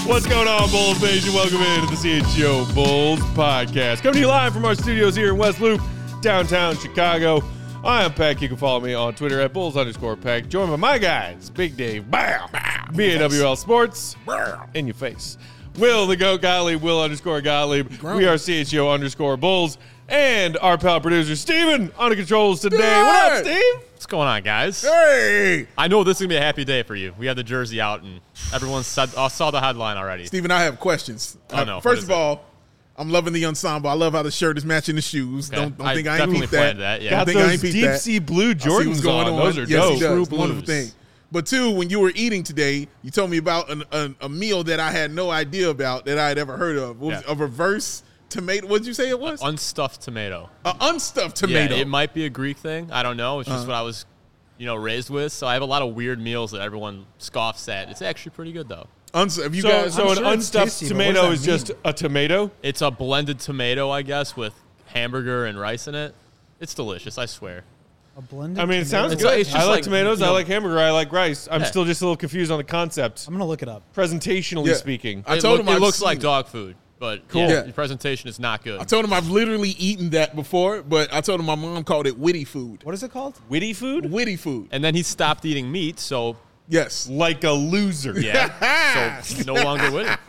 What's going on, Bulls Nation? Welcome into the CHGO Bulls podcast. Coming to you live from our studios here in West Loop, downtown Chicago. I am Peck. You can follow me on Twitter at Bulls_Peck. Joined by my guys, Big Dave, BAWL Sports, in your face. Will the Goat Gottlieb, Will_Gottlieb. We are CHGO_Bulls. And our pal producer, Steven, on the controls today. What up, Steve? What's going on, guys? Hey! I know this is going to be a happy day for you. We have the jersey out, and everyone saw the headline already. Steven, I have questions. Oh, no. First of all, I'm loving the ensemble. I love how the shirt is matching the shoes. Okay. Don't think I ain't definitely peeped planned that. that. Yeah. Got think I those ain't peeped deep that. sea blue I see what's Jordans going on. on. Those are yes, dope. he does. True It's a wonderful blues. thing. But two, when you were eating today, you told me about a meal that I had no idea about that I had ever heard of. What was it? A reverse tomato. What did you say it was? Unstuffed tomato. An unstuffed tomato. Yeah, it might be a Greek thing. I don't know. It's just what I was, raised with. So I have a lot of weird meals that everyone scoffs at. It's actually pretty good, though. Have you So guys? an sure it's unstuffed tasty, but tomato what is does that just a tomato? It's a blended tomato, I guess, with hamburger and rice in it. It's delicious, I swear. A blended I mean, it sounds tomato? good. it's I just like like, tomatoes. you I know- like hamburger. I like rice. I'm Yeah. still just a little confused on the concept. I'm going to look it up. Presentationally Yeah. speaking. I told him it I've looks seen like it. dog food, but Cool. yeah, Yeah. the presentation is not good. I told him I've literally eaten that before, but I told him my mom called it witty food. What is it called? Witty food? Witty food. And then he stopped eating meat, so Yes. Like a loser. yeah, so no longer with it.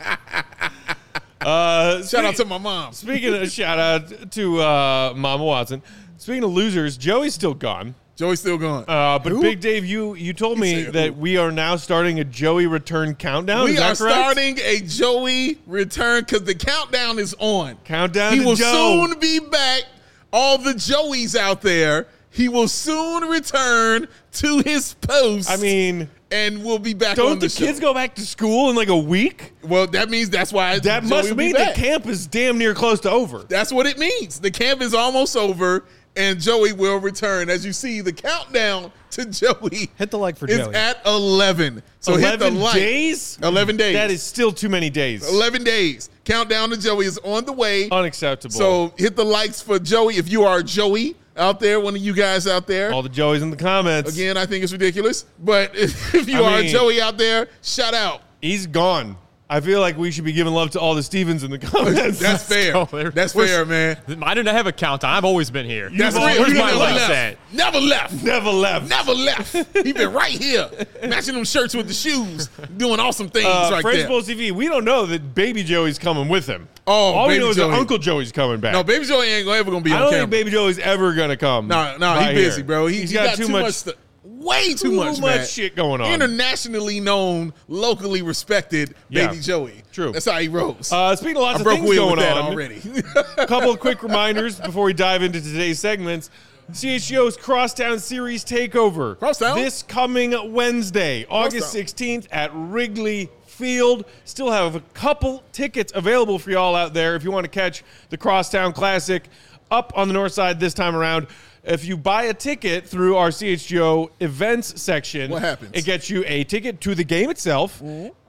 Shout out to my mom. Speaking of shout out to Mama Watson. Speaking of losers, Joey's still gone. Joey's still going. But Who? Big Dave, you told me said that who? we are now starting a Joey return countdown. We Is that are correct? starting a Joey return because the countdown is on. Countdown He to will Joe. soon be back. All the Joeys out there, he will soon return to his post. I mean, and we'll be back don't on the the show. kids go back to school in like a week? Well, that means that's why That Joey must will be mean back. that camp is damn near close to over. That's what it means. The camp is almost over, and Joey will return. As you see, the countdown to Joey Hit the like for is Joey. at 11. So hit the 11 like. days? 11 days. That is still too many days. 11 days. Countdown to Joey is on the way. Unacceptable. So hit the likes for Joey. If you are Joey out there, one of you guys out there. all the Joeys in the comments. Again, I think it's ridiculous. But if you are mean- Joey out there, shout out. He's gone. I feel like we should be giving love to all the Stevens in the comments. That's fair. go there. That's fair, man. I didn't have a countdown. I've always been here. That's You've real. always You my never likes left. at? Never left. Never left. Never left. He been right here, matching them shirts with the shoes, doing awesome things right French there. Bowl TV, we don't know that Baby Joey's coming with him. Oh, all we Baby know is Joey. that Uncle Joey's coming back. No, Baby Joey ain't ever gonna be I on don't camera. think Baby Joey's ever going to come. No, by he busy, here. bro. He's He got too much stuff. Way too much, man. shit going on. Internationally known, locally respected Yeah, Baby Joey. true. That's how he rolls. Speaking of lots I of broke things wheel going with that on already. a couple of quick reminders before we dive into today's segments. CHGO's Crosstown Series Takeover. Crosstown? This coming Wednesday, August 16th at Wrigley Field. Still have a couple tickets available for y'all out there if you want to catch the Crosstown Classic up on the north side this time around. If you buy a ticket through our CHGO events section, What happens? It gets you a ticket to the game itself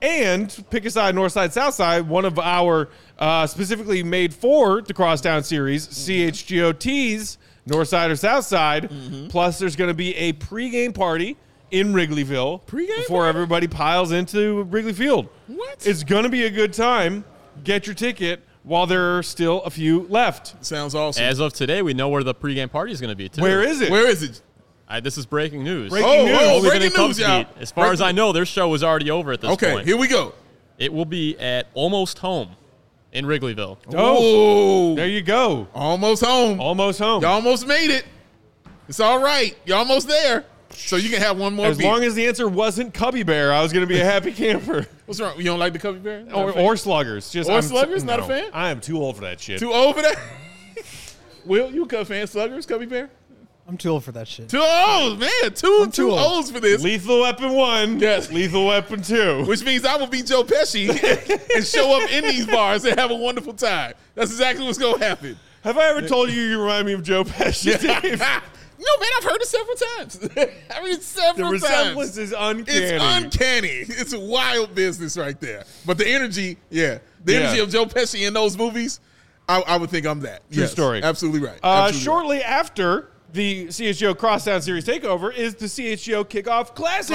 and pick a side, north side, south side, one of our specifically made for the Crosstown Series, CHGO tees, north side or south side. Plus, there's going to be a pregame party in Wrigleyville before everybody piles into Wrigley Field. What? It's going to be a good time. Get your ticket while there are still a few left. Sounds awesome. As of today, we know where the pregame party is going to be, too. Where is it? Where is it? This is breaking news. Breaking news. Oh, We've been breaking in Cubs news, y'all. beat. As far as I know, their show is already over at this Okay, point. here we go. It will be at Almost Home in Wrigleyville. Oh, Oh, there you go. almost home. Almost home. You almost made it. It's all right. You're almost there. So you can have one more As beer. long as the answer wasn't Cubby Bear, I was going to be a happy camper. What's wrong? You don't like the Cubby Bear? Not a or, fan? or Sluggers. Just Or I'm Sluggers? Not a no, fan? I am too old for that shit. Too old for that? Will, you a Cub fan? Sluggers, Cubby Bear? I'm too old for that shit. Too old, man. Too too old. olds for this. Lethal Weapon 1. Yes. Lethal Weapon 2. Which means I will be Joe Pesci and show up in these bars and have a wonderful time. That's exactly what's going to happen. Have I ever told you you remind me of Joe Pesci, Dave? No, man, I've heard it several times. I mean, The several resemblance times. is uncanny. It's uncanny. It's a wild business right there. But the energy, the energy Yeah. of Joe Pesci in those movies, I would think I'm that. True story. Absolutely right. Absolutely Shortly after the CHGO Crosstown Series Takeover is the CHGO Kickoff Classic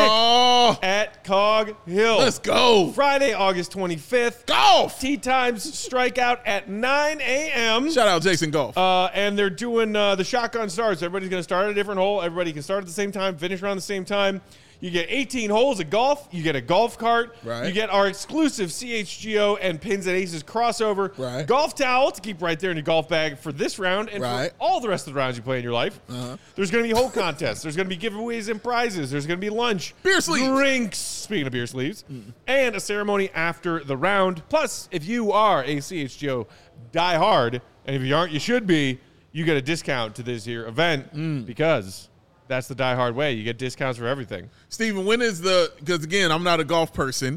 at Cog Hill. Let's go. Friday, August 25th. Golf. Tee times strike out at 9 a.m. Shout out Jason Golf. And they're doing the shotgun starts. Everybody's going to start at a different hole. Everybody can start at the same time, finish around the same time. You get 18 holes of golf. You get a golf cart. Right. You get our exclusive CHGO and Pins and Aces crossover. Right. Golf towel to keep right there in your golf bag for this round and Right. for all the rest of the rounds you play in your life. There's going to be hole contests. There's going to be giveaways and prizes. There's going to be lunch. Beer sleeves. Drinks. Speaking of beer sleeves. And a ceremony after the round. Plus, if you are a CHGO diehard, and if you aren't, you should be, you get a discount to this here event because that's the diehard way. You get discounts for everything. Steven, when is because again, I'm not a golf person.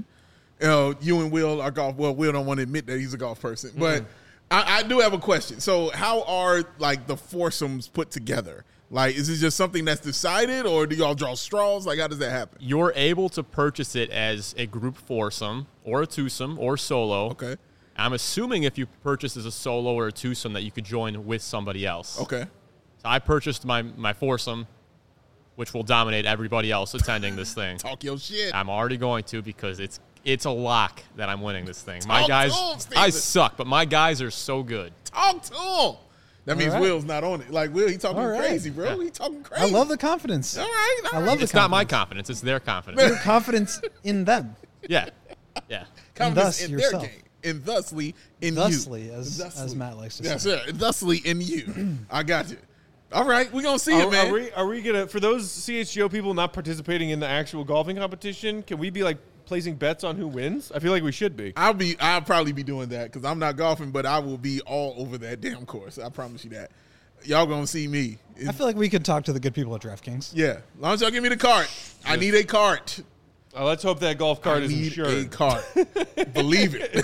You and Will are golf. Well, Will don't want to admit that he's a golf person, but I do have a question. So how are like the foursomes put together? Like, is it just something that's decided, or do y'all draw straws? Like, how does that happen? You're able to purchase it as a group foursome or a twosome or solo. Okay. I'm assuming if you purchase as a solo or a twosome that you could join with somebody else. Okay. So I purchased my foursome, which will dominate everybody else attending this thing. Talk your shit. I'm already going to because it's a lock that I'm winning this thing. My Talk guys, to 'em, Steven. I suck, but my guys are so good. Talk to him. That means right. Will's not on it. Like, Will, he talking All right. crazy, bro. Yeah. He talking crazy. I love the confidence. All right. I love the It's not my confidence. confidence; it's their confidence. Your confidence in them. Yeah. confidence thus in yourself. their game. And thusly in Thusly, you. as Matt likes to That's say. it. Thusly in you. I got you. All right. We're going to see it, man. Are we going to, for those CHGO people not participating in the actual golfing competition, can we be like placing bets on who wins? I feel like we should be. I'll probably be doing that because I'm not golfing, but I will be all over that damn course. I promise you that. Y'all going to see me. I feel like we could talk to the good people at DraftKings. Yeah. As long as y'all give me the cart. I need a cart. Let's hope that golf cart I is need insured. a cart. Believe it.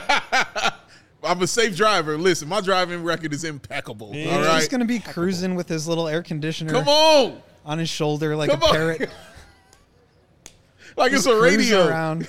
I'm a safe driver. Listen, my driving record is impeccable. All He's right. just going to be cruising with his little air conditioner Come on. on his shoulder like Come a on. parrot. Like it's Just a cruise radio. around.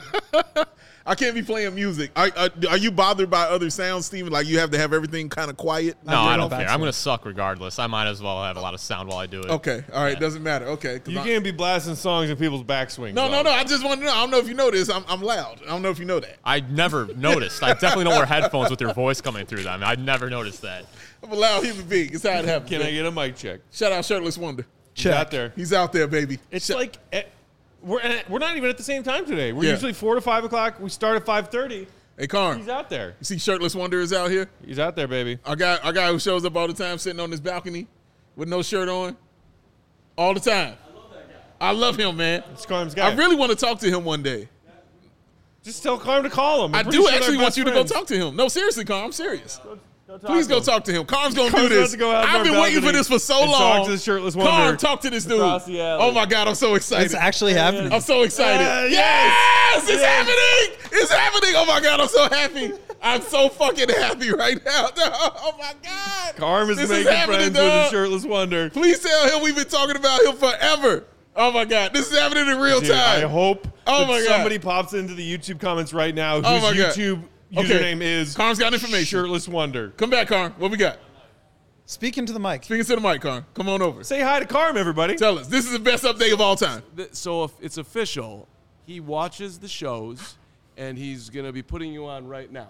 I can't be playing music. Are you bothered by other sounds, Steven? Like you have to have everything kind of quiet? No, I'm I doing don't a care. bachelor. I'm going to suck regardless. I might as well have a lot of sound while I do it. Okay. All right. Doesn't matter. Okay. 'Cause You can't be blasting songs in people's backswings. No. though. I just want to know. I don't know if you know this. I'm loud. I don't know if you know that. I never noticed. I definitely don't wear headphones with your voice coming through them. I never noticed that. I'm a loud human being. It's how it happens. Can man. I get a mic check? Shout out Shirtless Wonder. He's out there. He's out there, baby. It's like we're not even at the same time today. We're Yeah. usually 4 to 5 o'clock. We start at 5:30. Hey, Carm. He's out there. You see Shirtless Wonder is out here? He's out there, baby. Our guy who shows up all the time sitting on this balcony with no shirt on. All the time. I love that guy. I love him, man. It's Carm's guy. I really want to talk to him one day. Just tell Carm to call him. I I'm pretty do sure they're actually want best you to go friends. talk to him. No, seriously, Carm. I'm serious. Go talk Please to go him. talk to him. Carm's going to Carm's do about this. to go out on I've our been waiting for balcony this for so and long. talk to the Shirtless Wonder Carm, talk to this dude. across the alley. Oh, my God. I'm so excited. It's actually happening. I'm so excited. Yes! It's happening. It's happening. Oh, my God. I'm so happy. I'm so fucking happy right now. Oh, my God. Carm is This making happening, friends with the dog. Shirtless Wonder. Please tell him we've been talking about him forever. Oh, my God. This is happening in real Dude, time. I hope Oh that my God. somebody pops into the YouTube comments right now whose Oh my God. YouTube Okay. username is Carm's got information. Shirtless Wonder. Come back, Carm. What we got? Speaking to the mic. Speaking to the mic, Carm. Come on over. Say hi to Carm, everybody. Tell us. This is the best update of all time. So if it's official, he watches the shows, and he's going to be putting you on right now.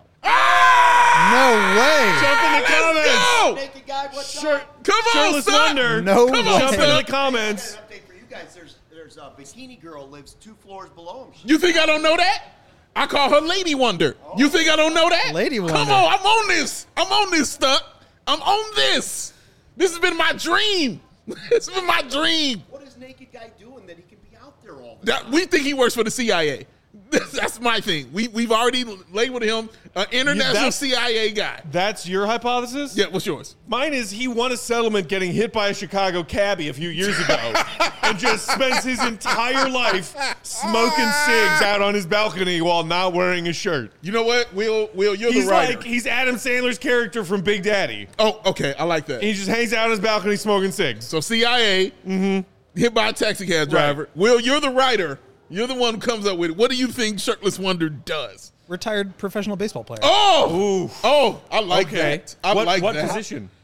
No way. Jump in the comments. Go! Naked guy, what's Shirt, up? Come on, Shirtless son. Wonder. No Come on, way. Jump into son. the comments. An update for you guys. There's a bikini girl lives 2 floors below him. You think I don't know that? I call her Lady Wonder. You think I don't know that? Lady Come Wonder. on, I'm on this. I'm on this stuff. I'm on this. This has been my dream. It's been my dream. What is naked guy doing that he can be out there all the time? We think he works for the CIA. That's my thing. We've already labeled him an international that's- CIA guy. That's your hypothesis? Yeah, what's yours? Mine is he won a settlement getting hit by a Chicago cabbie a few years ago and just spends his entire life smoking cigs out on his balcony while not wearing a shirt. You know what? Will, you're He's the writer. like, he's Adam Sandler's character from Big Daddy. Oh, okay. I like that. He just hangs out on his balcony smoking cigs. So CIA, hit by a taxi cab driver. Right. Will, you're the writer. You're the one who comes up with it. What do you think Shirtless Wonder does? Retired professional baseball player. Oh, Ooh. oh, I like Okay. that. I what like what that. position?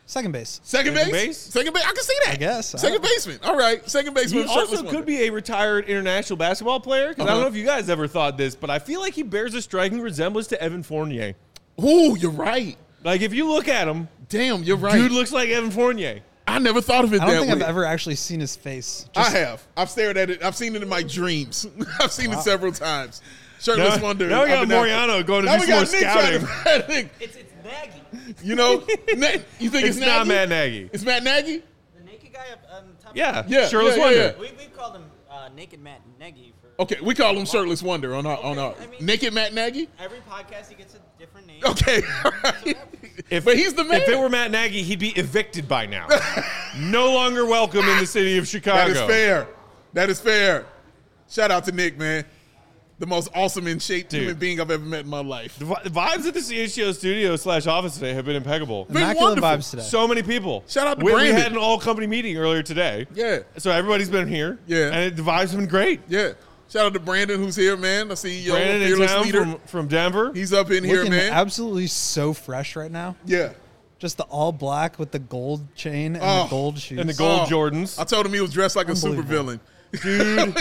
Second base. Second base? base? Second base? I can see that. I guess. Second baseman. All right. Second baseman. He shirtless also wonder. could be a retired international basketball player. Because I don't Uh-huh. know if you guys ever thought this, but I feel like he bears a striking resemblance to Evan Fournier. Ooh, you're right. Like, if you look at him, Damn, you're right. dude looks like Evan Fournier. I never thought of it I that don't think way. I've ever actually seen his face. I have. I've stared at it. I've seen it in my dreams. I've seen it several times. Shirtless Wonder. Now we got I've been out- Moriano going to Now do we some more got Nick trying scouting. to Nick. It's Nagy. You know, you think It's it's not Nagy? Matt Nagy. It's Matt Nagy? The naked guy on top. Yeah, Yeah, Shirtless yeah, Wonder. yeah. We've called him Naked Matt Nagy for Okay, we call him Shirtless Wonder on our I mean- Naked Matt Nagy. every podcast. He gets a different name. Okay, all right. If, But he's the man. If it were Matt Nagy, he'd be evicted by now. No longer welcome in the city of Chicago. That is fair. That is fair. Shout out to Nick, man. The most awesome in shape Dude. human being I've ever met in my life. The vibes at the CHGO studio / office today have been impeccable. Been Immaculate wonderful. vibes today. So many people. Shout out to we Brandon. had an all company meeting earlier today. Yeah. So everybody's been here. Yeah. And the vibes have been great. Yeah. Shout out to Brandon who's here, man. I see you, Brandon in fearless town leader. from Denver. He's up in here, Looking man. absolutely so fresh right now. Yeah. Just the all black with the gold chain and Oh. the gold shoes. And the gold Oh, Jordans. I told him he was dressed like a supervillain. Dude.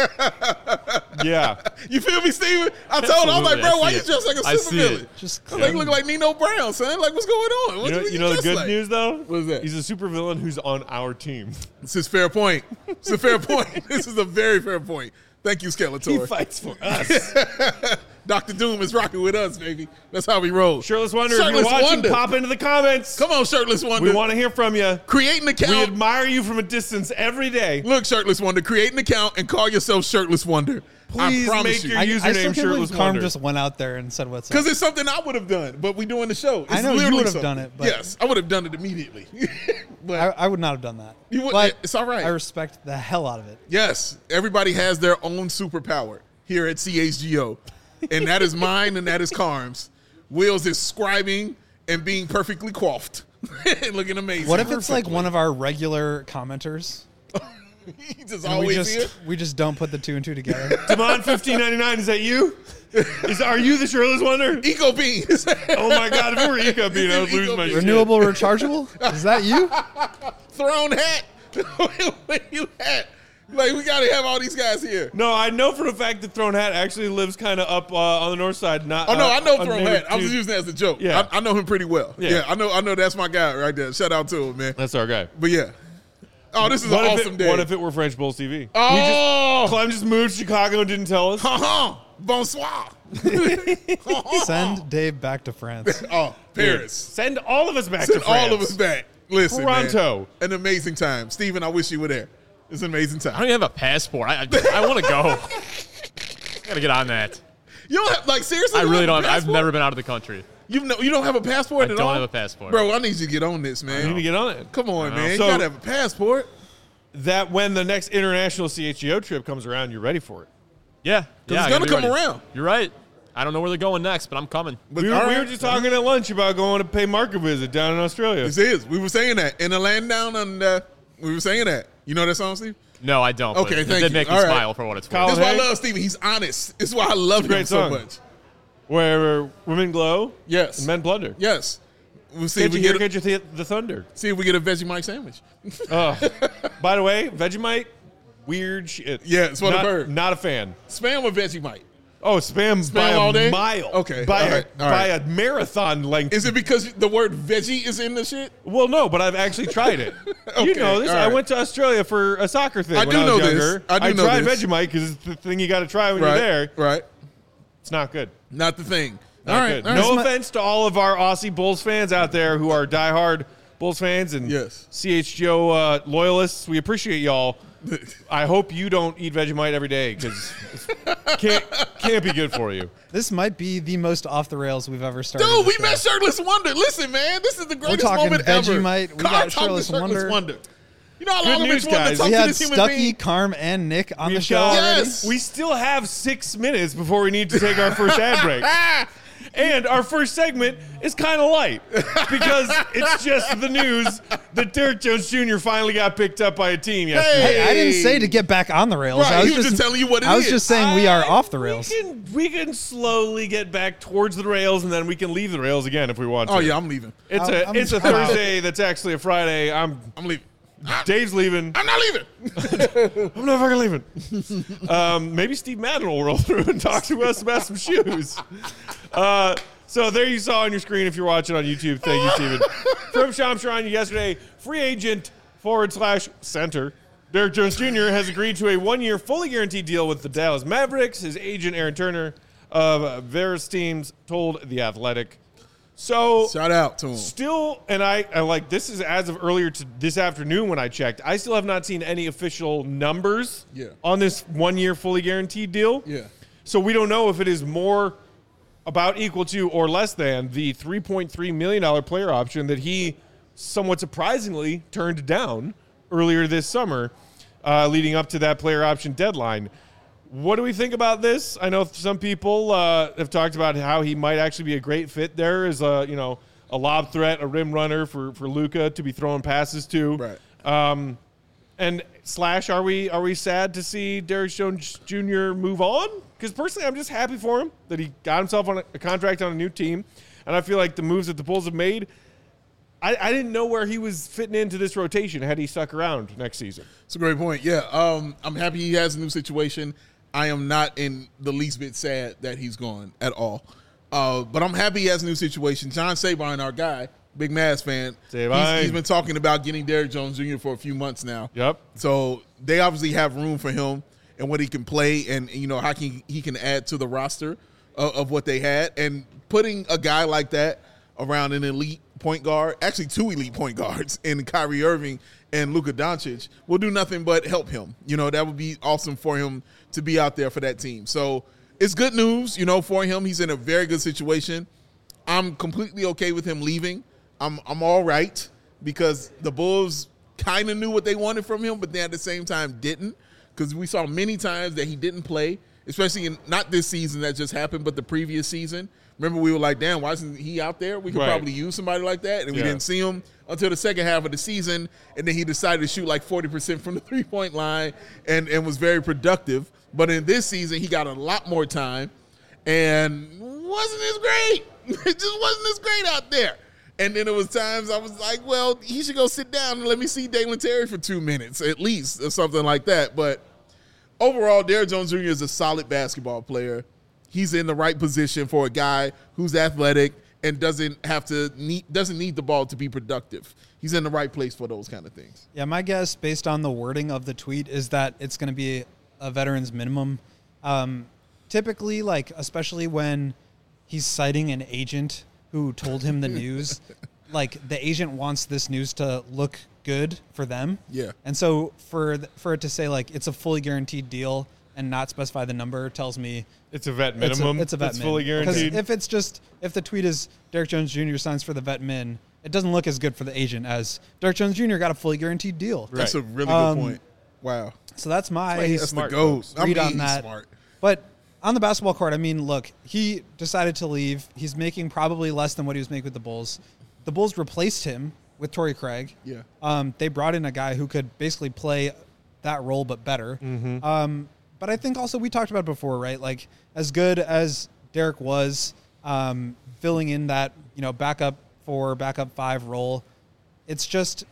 Yeah. You feel me, Steven? I told him, I was like, Absolutely, bro, I why see you it. dressed like a I see supervillain? it. Just I was like, you look like Nino Brown, son. Like, what's going on? What You know the dress good like? news, though? What is that? He's a supervillain who's on our team. This is fair point. It's a fair point. This is a very fair point. Thank you, He Skeletor. fights for us. Dr. Doom is rocking with us, baby. That's how we roll. Shirtless Wonder, if Shirtless you're watching, Wonder. pop into the comments. Come on, Shirtless Wonder. We want to hear from you. Create an We account. admire you from a distance every day. Look, Shirtless Wonder, create an account and call yourself Shirtless Wonder. Please I promise make you. your I username still can't Shirtless believe Carm Wonder. just went out there and said what's up. Because it's something I would have done, but we doing the show. It's I know you literally would have something. done it, but- yes, I would have done it immediately. but I would not have done that. You would- but it's all right. I respect the hell out of it. yes, everybody has their own superpower here at CHGO, and that is mine, and that is Carm's. Will's is scribing and being perfectly coiffed, and looking amazing. What if it's like one of our regular commenters? He just And we always here? just don't put the two and two together. Demond 1599, is that you? Are you the Shirtless Wonder? Eco Beans. Oh my God! If it were Eco Bean, I would lose my shit. Renewable rechargeable? Is that you? Throne hat. You hat. Like, we got to have all these guys here. No, I know for a fact that Throne Hat actually lives kind of up on the north side. Not. Oh no, I know on Throne native Hat. I was to- using that as a joke. Yeah. I know him pretty well. Yeah. Yeah, I know that's my guy right there. Shout out to him, man. That's our guy. But yeah. Oh, this is an awesome day. What if it were French Bulls TV? Oh, Clem just moved to Chicago and didn't tell us. bonsoir. Send Dave back to France. Oh, Paris. Send all of us back Send to France. all of us back. Listen, Toronto. man, an amazing time. Steven, I wish you were there. It's an amazing I time. don't even have a passport. I want to go. I gotta get on that. You don't have, like, seriously? I you really have don't. a I've passport? never been out of the country. You don't have a passport I at don't all? have a passport. Bro, I need you to get on this, You man. need to get on it. Come on, man. So- you gotta have a passport. That when the next international CHGO trip comes around, you're ready for it. Yeah, yeah. it's I gonna gotta be come ready. around. You're right. I don't know where they're going next, but I'm coming. But We all were right. just talking at lunch about going to pay market visit down in Australia. This is. We were saying that in the land down under. We were saying that. You know that song, Steve? No, I don't. Okay, but thank it did you. make me All right. smile for what it's Colin worth. That's why I Hey. love Steven. He's honest. That's why I love him great so song. much. Where women glow Yes. and men plunder. Yes. We'll see Can't if you we hear, get can't you the thunder? see if we get a Vegemite sandwich. By the way, Vegemite, weird shit. Yeah, it's what I've Not- heard. Not a fan. Spam or Vegemite? Oh, spam by all day? a mile. Okay, By, all right, all by right. a marathon length. Is it because the word veggie is in the shit? Well, no, but I've actually tried it. You Okay, know this. all I right. went to Australia for a soccer thing I when do I was know this. younger. I do know tried this. Vegemite because it's the thing you got to try when Right. you're there. Right. It's not good. Not the thing. Not all right. good. All right. No offense to all of our Aussie Bulls fans out there who are diehard Bulls fans and Yes. CHGO loyalists. We appreciate y'all. I hope you don't eat Vegemite every day because can't be good for you. This might be the most off the rails we've ever started. Dude, the we show. met Shirtless Wonder. Listen, man, this is the greatest talking moment ever. Vegemite, we Carl got talking to Shirtless Wonder. You know how Good long I've been news, wanting to guys. talk We to had this human Stucky, being? Carm, and Nick on the We've show got- already. Yes. We still have 6 minutes before we need to take our first ad break. And our first segment is kind of light because it's just the news that Derrick Jones Jr. finally got picked up by a team yesterday. Hey, I didn't say to get back on the rails. Right, I was he was just telling you what it I was is. just saying we are off the rails. We can slowly get back towards the rails, and then we can leave the rails again if we want to. Oh yeah, I'm leaving. It's I'm a Thursday that's actually a Friday. I'm leaving. Dave's leaving. I'm not leaving. I'm not fucking leaving. Maybe Steve Madden will roll through and talk to us about some shoes. So there you saw on your screen if you're watching on YouTube. Thank you, Steven. From Shams Charania yesterday, free agent /center Derrick Jones Jr. has agreed to a 1-year fully guaranteed deal with the Dallas Mavericks. His agent, Aaron Turner of Veras Teams, told The Athletic. So Shout out to him. still, and I like this is as of earlier to this afternoon when I checked. I still have not seen any official numbers on this 1-year fully guaranteed deal. Yeah. So we don't know if it is more about equal to or less than the $3.3 million player option that he somewhat surprisingly turned down earlier this summer, leading up to that player option deadline. What do we think about this? I know some people have talked about how he might actually be a great fit there as a lob threat, a rim runner for Luka to be throwing passes to. Right. And / are we sad to see Derrick Jones Jr. move on? Because personally, I'm just happy for him that he got himself on a contract on a new team, and I feel like the moves that the Bulls have made. I didn't know where he was fitting into this rotation had he stuck around next season. It's a great point. Yeah, I'm happy he has a new situation. I am not in the least bit sad that he's gone at all. But I'm happy he has a new situation. John Sabine, our guy, big Mavs fan, he's been talking about getting Derrick Jones Jr. for a few months now. Yep. So they obviously have room for him and what he can play and how he can add to the roster of what they had. And putting a guy like that around an elite point guard, actually 2 elite point guards in Kyrie Irving and Luka Doncic will do nothing but help him. That would be awesome for him to be out there for that team. So it's good news, for him. He's in a very good situation. I'm completely okay with him leaving. I'm all right because the Bulls kind of knew what they wanted from him, but they at the same time didn't, because we saw many times that he didn't play, especially in not this season that just happened, but the previous season. Remember, we were like, damn, why isn't he out there? We could probably use somebody like that. And we didn't see him until the second half of the season. And then he decided to shoot like 40% from the three-point line and was very productive. But in this season, he got a lot more time and wasn't as great. It just wasn't as great out there. And then there was times I was like, well, he should go sit down and let me see Dalen Terry for 2 minutes at least or something like that. But overall, Derrick Jones Jr. is a solid basketball player. He's in the right position for a guy who's athletic and doesn't need the ball to be productive. He's in the right place for those kind of things. Yeah, my guess, based on the wording of the tweet, is that it's going to be a veteran's minimum. Typically, especially when he's citing an agent who told him the news, the agent wants this news to look good for them. Yeah. And so for it to say, it's a fully guaranteed deal and not specify the number tells me it's a vet minimum. It's a vet min. Fully guaranteed. Because if the tweet is Derrick Jones Jr. signs for the vet min, it doesn't look as good for the agent as Derrick Jones Jr. got a fully guaranteed deal. Right. That's a really good point. Wow. So that's my that's the GOAT. read on that. Smart. But on the basketball court, look, he decided to leave. He's making probably less than what he was making with the Bulls. The Bulls replaced him with Torrey Craig. Yeah. They brought in a guy who could basically play that role but better. Mm-hmm. But I think also we talked about it before, right? As good as Derrick was filling in that, backup 4, backup 5 role, it's just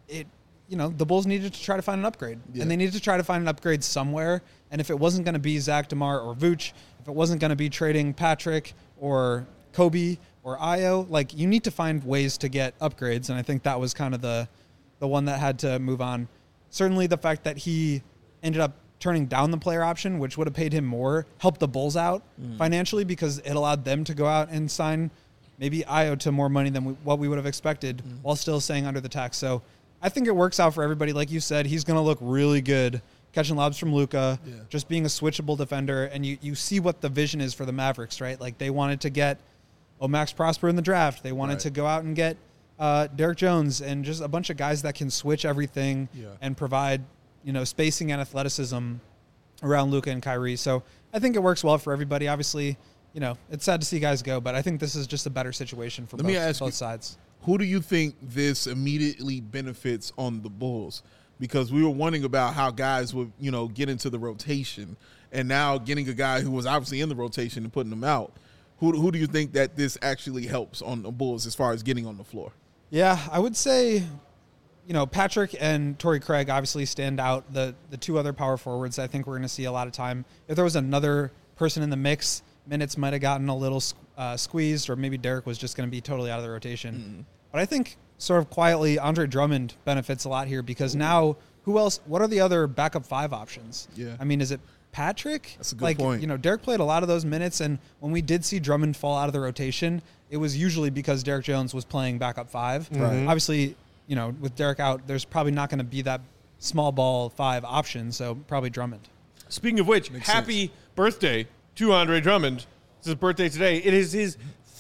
the Bulls needed to try to find an upgrade. Yeah. And they needed to try to find an upgrade somewhere. And if it wasn't going to be Zach DeMar or Vooch, if it wasn't going to be trading Patrick or Kobe or Ayo, you need to find ways to get upgrades. And I think that was kind of the one that had to move on. Certainly the fact that he ended up turning down the player option, which would have paid him more, helped the Bulls out financially because it allowed them to go out and sign maybe Ayo to more money than what we would have expected while still staying under the tax. So I think it works out for everybody. Like you said, he's going to look really good catching lobs from Luka, just being a switchable defender. And you see what the vision is for the Mavericks, right? They wanted to get Max Prosper in the draft. They wanted to go out and get Derrick Jones and just a bunch of guys that can switch everything and provide spacing and athleticism around Luka and Kyrie. So I think it works well for everybody. Obviously, it's sad to see guys go, but I think this is just a better situation for both sides. Who do you think this immediately benefits on the Bulls? Because we were wondering about how guys would, get into the rotation, and now getting a guy who was obviously in the rotation and putting them out. Who do you think that this actually helps on the Bulls as far as getting on the floor? Yeah, I would say, Patrick and Torrey Craig obviously stand out. The two other power forwards, I think we're going to see a lot of time. If there was another person in the mix, minutes might have gotten a little squeezed, or maybe Derek was just going to be totally out of the rotation. Mm-hmm. But I think sort of quietly, Andre Drummond benefits a lot here because now who else? What are the other backup 5 options? Yeah. I mean, is it Patrick? That's a good point. Derek played a lot of those minutes, and when we did see Drummond fall out of the rotation, it was usually because Derek Jones was playing backup 5. Right. Obviously, with Derek out, there's probably not going to be that small ball 5 option, so probably Drummond. Speaking of which, happy birthday to Andre Drummond. It's his birthday today. It is his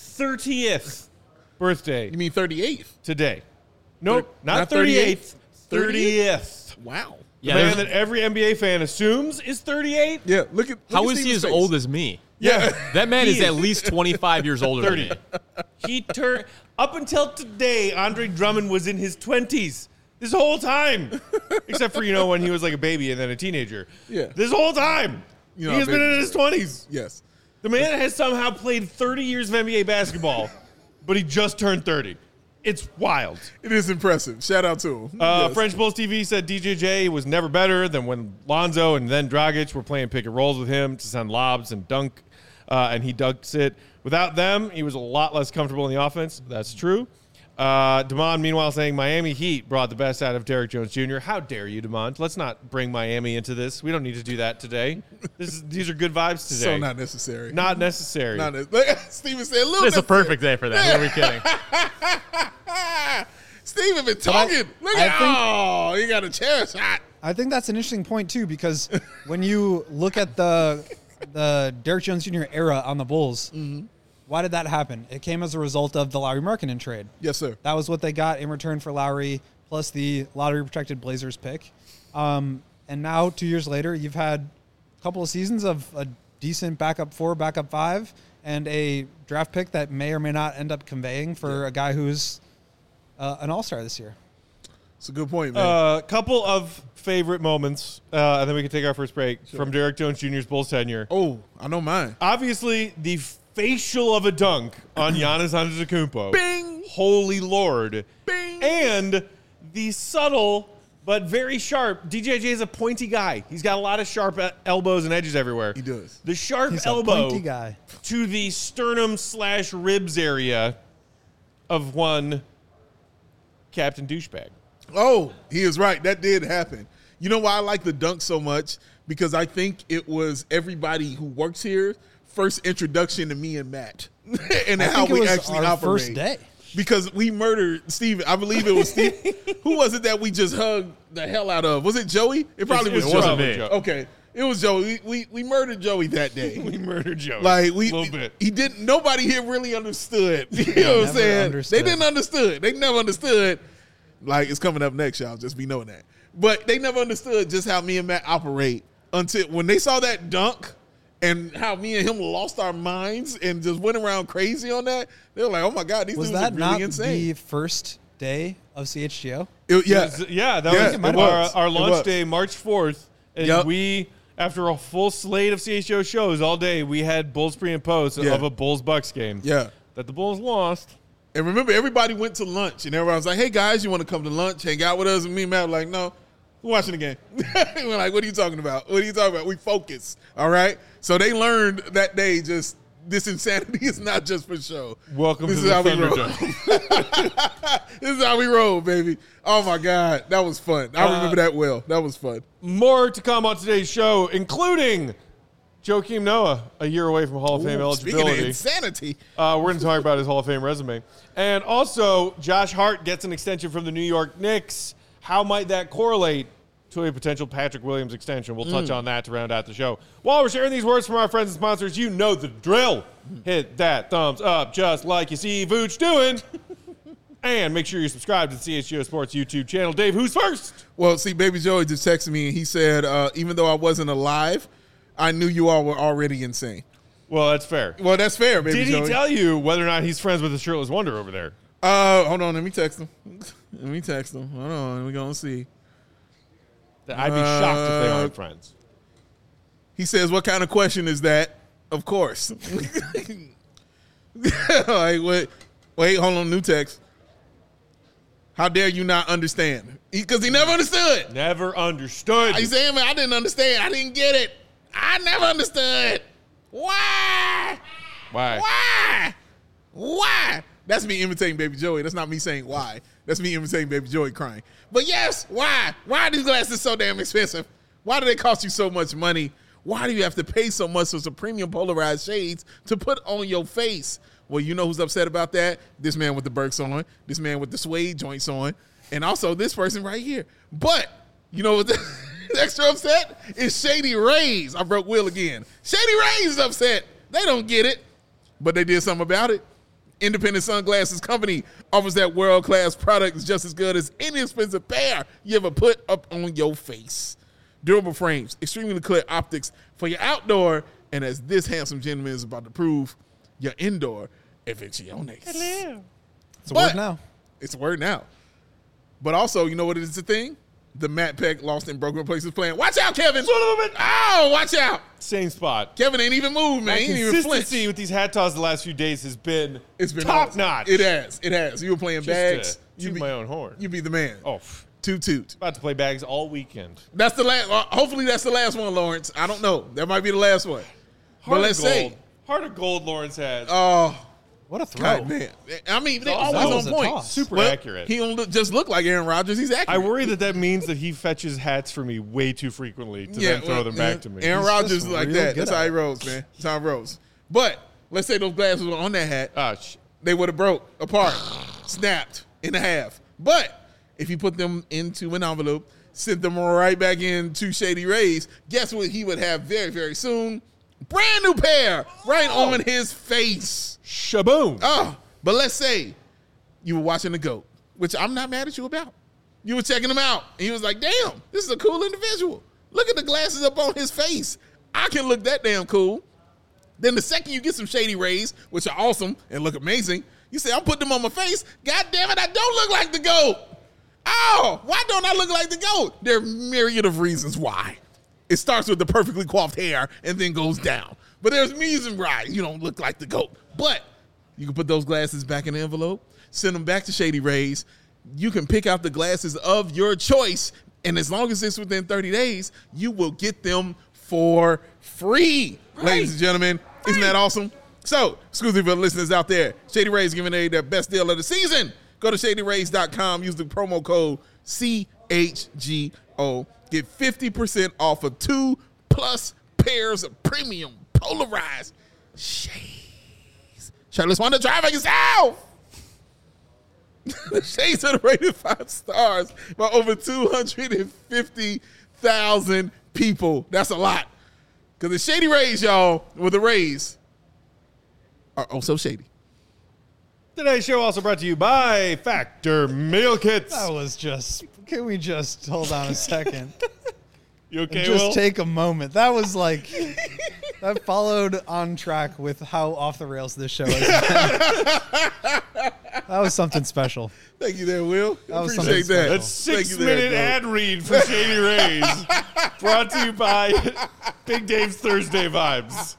30th birthday. You mean 38th? Today. Nope, not 38th. 30th. Wow. The man that every NBA fan assumes is 38. Yeah, look at How is he as old as me? Yeah. That man is at least 25 years older than me. He turned up until today. Andre Drummond was in his 20s this whole time, except for when he was like a baby and then a teenager. Yeah. This whole time, he has been in his 20s. Yes. The man has somehow played 30 years of NBA basketball, but he just turned 30. It's wild. It is impressive. Shout out to him. Yes. French Bulls TV said DJJ was never better than when Lonzo and then Dragic were playing pick and rolls with him to send lobs and dunk, and he dunks it. Without them, he was a lot less comfortable in the offense. That's true. Damon, meanwhile, saying Miami Heat brought the best out of Derek Jones Jr. How dare you, Damon? Let's not bring Miami into this. We don't need to do that today. These are good vibes today. So not necessary. Not necessary. Steven said, It's a perfect day for that. Who are we kidding? Steven been talking. He got a chair shot. I think that's an interesting point, too, because when you look at the Derek Jones Jr. era on the Bulls, why did that happen? It came as a result of the Lauri Markkanen trade. Yes, sir. That was what they got in return for Lowry, plus the lottery-protected Blazers pick. And now, 2 years later, you've had a couple of seasons of a decent backup 4, backup 5, and a draft pick that may or may not end up conveying for a guy who's an all-star this year. It's a good point, man. A couple of favorite moments, and then we can take our first break from Derek Jones Jr.'s Bulls tenure. Oh, I know mine. Obviously, the facial of a dunk on Giannis Antetokounmpo. Bing! Holy Lord. Bing! And the subtle but very sharp. DJJ is a pointy guy. He's got a lot of sharp elbows and edges everywhere. He does. The sharp He's elbow a pointy guy. to the sternum/ribs area of one Captain Douchebag. Oh, he is right. That did happen. You know why I like the dunk so much? Because I think it was everybody who works here first introduction to me and Matt and how we actually our operate. First day. Because we murdered Steven. I believe it was Steve. Who was it that we just hugged the hell out of? Was it Joey? It probably was It Joey. wasn't me. Okay. It was Joey. We murdered Joey that day. We murdered Joey. Like a little bit. He didn't. Nobody here really understood. You know what I'm saying? Understood. They didn't understood. They never understood. Like it's coming up next, y'all. Just be knowing that. But they never understood just how me and Matt operate until when they saw that dunk and how me and him lost our minds and just went around crazy on that. They were like, "Oh my God, these dudes are that really not insane." the first day of CHGO? That was our launch was. day, March 4th. And we, after a full slate of CHGO shows all day, we had Bulls pre and post of a Bulls-Bucks game. Yeah. That the Bulls lost. And remember, everybody went to lunch, and everybody was like, "Hey guys, you want to come to lunch, hang out with us?" And me and Matt were like, "No, we're watching the game." We're like, "What are you talking about? What are you talking about? We focus, all right." So they learned that day just this insanity is not just for show. Welcome This to is the how we roll. Thunderdome. This is how we roll, baby. Oh my God, that was fun. I remember that well. That was fun. More to come on today's show, including Joakim Noah, a year away from Hall of Fame Speaking of eligibility. insanity, We're going to talk about his Hall of Fame resume. And also, Josh Hart gets an extension from the New York Knicks. How might that correlate to a potential Patrick Williams extension? We'll touch on that to round out the show. While we're sharing these words from our friends and sponsors, you know the drill. Hit that thumbs up just like you see Vooch doing. And make sure you subscribe to the CHGO Sports YouTube channel. Dave, who's first? well, see, Baby Joey just texted me, and he said, even though I wasn't alive, I knew you all were already insane. Well, that's fair. Well, that's fair, baby Did he Joey. tell you whether or not he's friends with the shirtless wonder over there? Hold on. Let me text him. Hold on. We're going to see. I'd be shocked if they aren't friends. He says, what kind of question is that? Of course. Like, wait, hold on. New text. How dare you not understand? Because he never understood. Never understood. He's saying, man, I didn't understand. I didn't get it. I never understood. Why? Why? That's me imitating Baby Joey. That's not me saying why. That's me imitating Baby Joey crying. But yes, why? Why are these glasses so damn expensive? Why do they cost you so much money? Why do you have to pay so much for some premium polarized shades to put on your face? Well, you know who's upset about that? This man with the Birks on, this man with the suede joints on, and also this person right here. But you know what's extra upset is Shady Rays. I broke Will again. Shady Rays is upset. They don't get it, but they did something about it. Independent Sunglasses Company offers that world-class product that's just as good as any expensive pair you ever put up on your face. Durable frames, extremely clear optics for your outdoor, and as this handsome gentleman is about to prove, your indoor aficiones. It's a word now. It's a word now. But also, you know what is the thing? The Matt Peck Lost in Broken Places plan. Watch out, Kevin. Son of a bitch. Oh, watch out. Same spot. Kevin ain't even moved, man. My He ain't even consistency flinched. with these hat toss the last few days has been top awesome. notch. It has. You were playing bags. You You be my own horn. You be the man. Oh, Toot. about to play bags all weekend. That's the last. Hopefully, that's the last one, Lawrence. I don't know. That might be the last one. Heart let's of gold. say- Heart of gold Lawrence has. Oh, What a throw. God, man. I mean, they That always was on a point. toss. Super Well, accurate. He don't just look like Aaron Rodgers. He's accurate. I worry that means that he fetches hats for me way too frequently to then throw them back to me. Aaron He's Rodgers just is like real that. good That's at how he it. rolls, man. That's how he rolls. But let's say those glasses were on that hat. They would have broke apart, snapped in half. But if you put them into an envelope, sent them right back into Shady Rays, guess what he would have very, very soon? Brand new pair right on his face. Shaboom. Oh, but let's say you were watching the GOAT, which I'm not mad at you about. You were checking him out, and he was like, damn, this is a cool individual. Look at the glasses up on his face. I can look that damn cool. Then the second you get some Shady Rays, which are awesome and look amazing, you say, I'm putting them on my face. God damn it, I don't look like the GOAT. Oh, why don't I look like the GOAT? There are myriad of reasons why. It starts with the perfectly coiffed hair and then goes down. But there's reasons why you don't look like the GOAT. But you can put those glasses back in the envelope, send them back to Shady Rays. You can pick out the glasses of your choice, and as long as it's within 30 days, you will get them for free, ladies and gentlemen. Isn't that awesome? So, exclusive for the listeners out there, Shady Rays giving away their best deal of the season. Go to ShadyRays.com, use the promo code CHGO. Get 50% off of 2+ pairs of premium polarized shades. Shirtless Wonder, try for yourself. The shades are rated 5 stars by over 250,000 people. That's a lot. Because the Shady Rays, y'all, with the Rays, are also shady. Today's show also brought to you by Factor Meal Kits. That was just. Can we just hold on a second? You okay, And just Will? take a moment. That was like. That followed on track with how off the rails this show is. That was something special. Thank you there, Will. That was Appreciate something that. special. That's Thank you there, 6-minute Doug. ad read from Shady Rays. Brought to you by Big Dave's Thursday Vibes.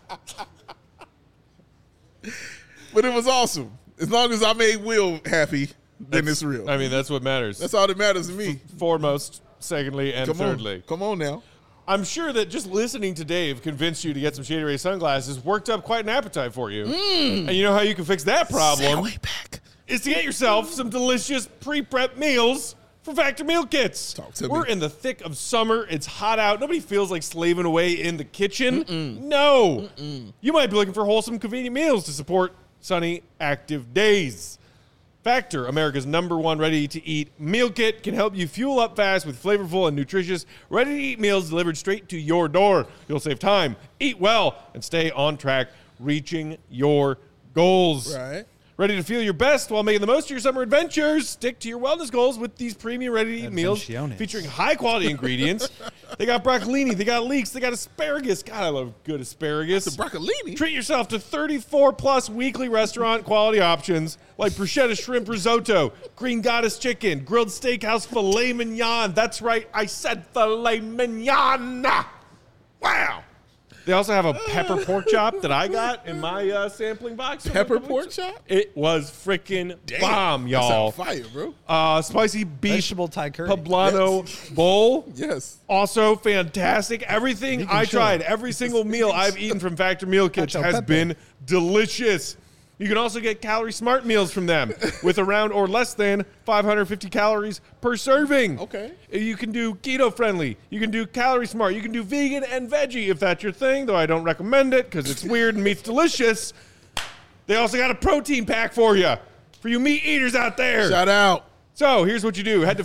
But it was awesome. As long as I made Will happy, then it's real. I mean, that's what matters. That's all that matters to me. Foremost, secondly, and thirdly. Come on now. I'm sure that just listening to Dave convinced you to get some Shady Ray sunglasses, worked up quite an appetite for you. And you know how you can fix that problem? Way back. Is to get yourself some delicious pre-prep meals from Factor Meal Kits. Talk to We're me. in the thick of summer. It's hot out. Nobody feels like slaving away in the kitchen. No. You might be looking for wholesome, convenient meals to support sunny, active days. Factor, America's #1 ready-to-eat meal kit, can help you fuel up fast with flavorful and nutritious ready-to-eat meals delivered straight to your door. You'll save time, eat well, and stay on track, reaching your goals. Right. Ready to feel your best while making the most of your summer adventures? Stick to your wellness goals with these premium ready-to-eat meals Advenciones. featuring high-quality ingredients They got broccolini. They got leeks. They got asparagus. God, I love good asparagus. The broccolini. Treat yourself to 34-plus weekly restaurant quality options like bruschetta shrimp risotto, green goddess chicken, grilled steakhouse filet mignon. That's right, I said filet mignon. Wow. They also have a pepper pork chop that I got in my sampling box. Pepper pork chop? It was freaking bomb, That y'all. sound fire, bro. Spicy beef Vegetable Thai curry. poblano bowl. Yes. Also fantastic. Everything I tried, every single meal I've eaten from Factor Meal Kits Cacio has Pepe. been delicious. You can also get Calorie Smart meals from them with around or less than 550 calories per serving. Okay. You can do keto friendly. You can do Calorie Smart. You can do vegan and veggie if that's your thing, though I don't recommend it because it's weird and meat's delicious. They also got a protein pack for you meat eaters out there. Shout out. So here's what you do. Head to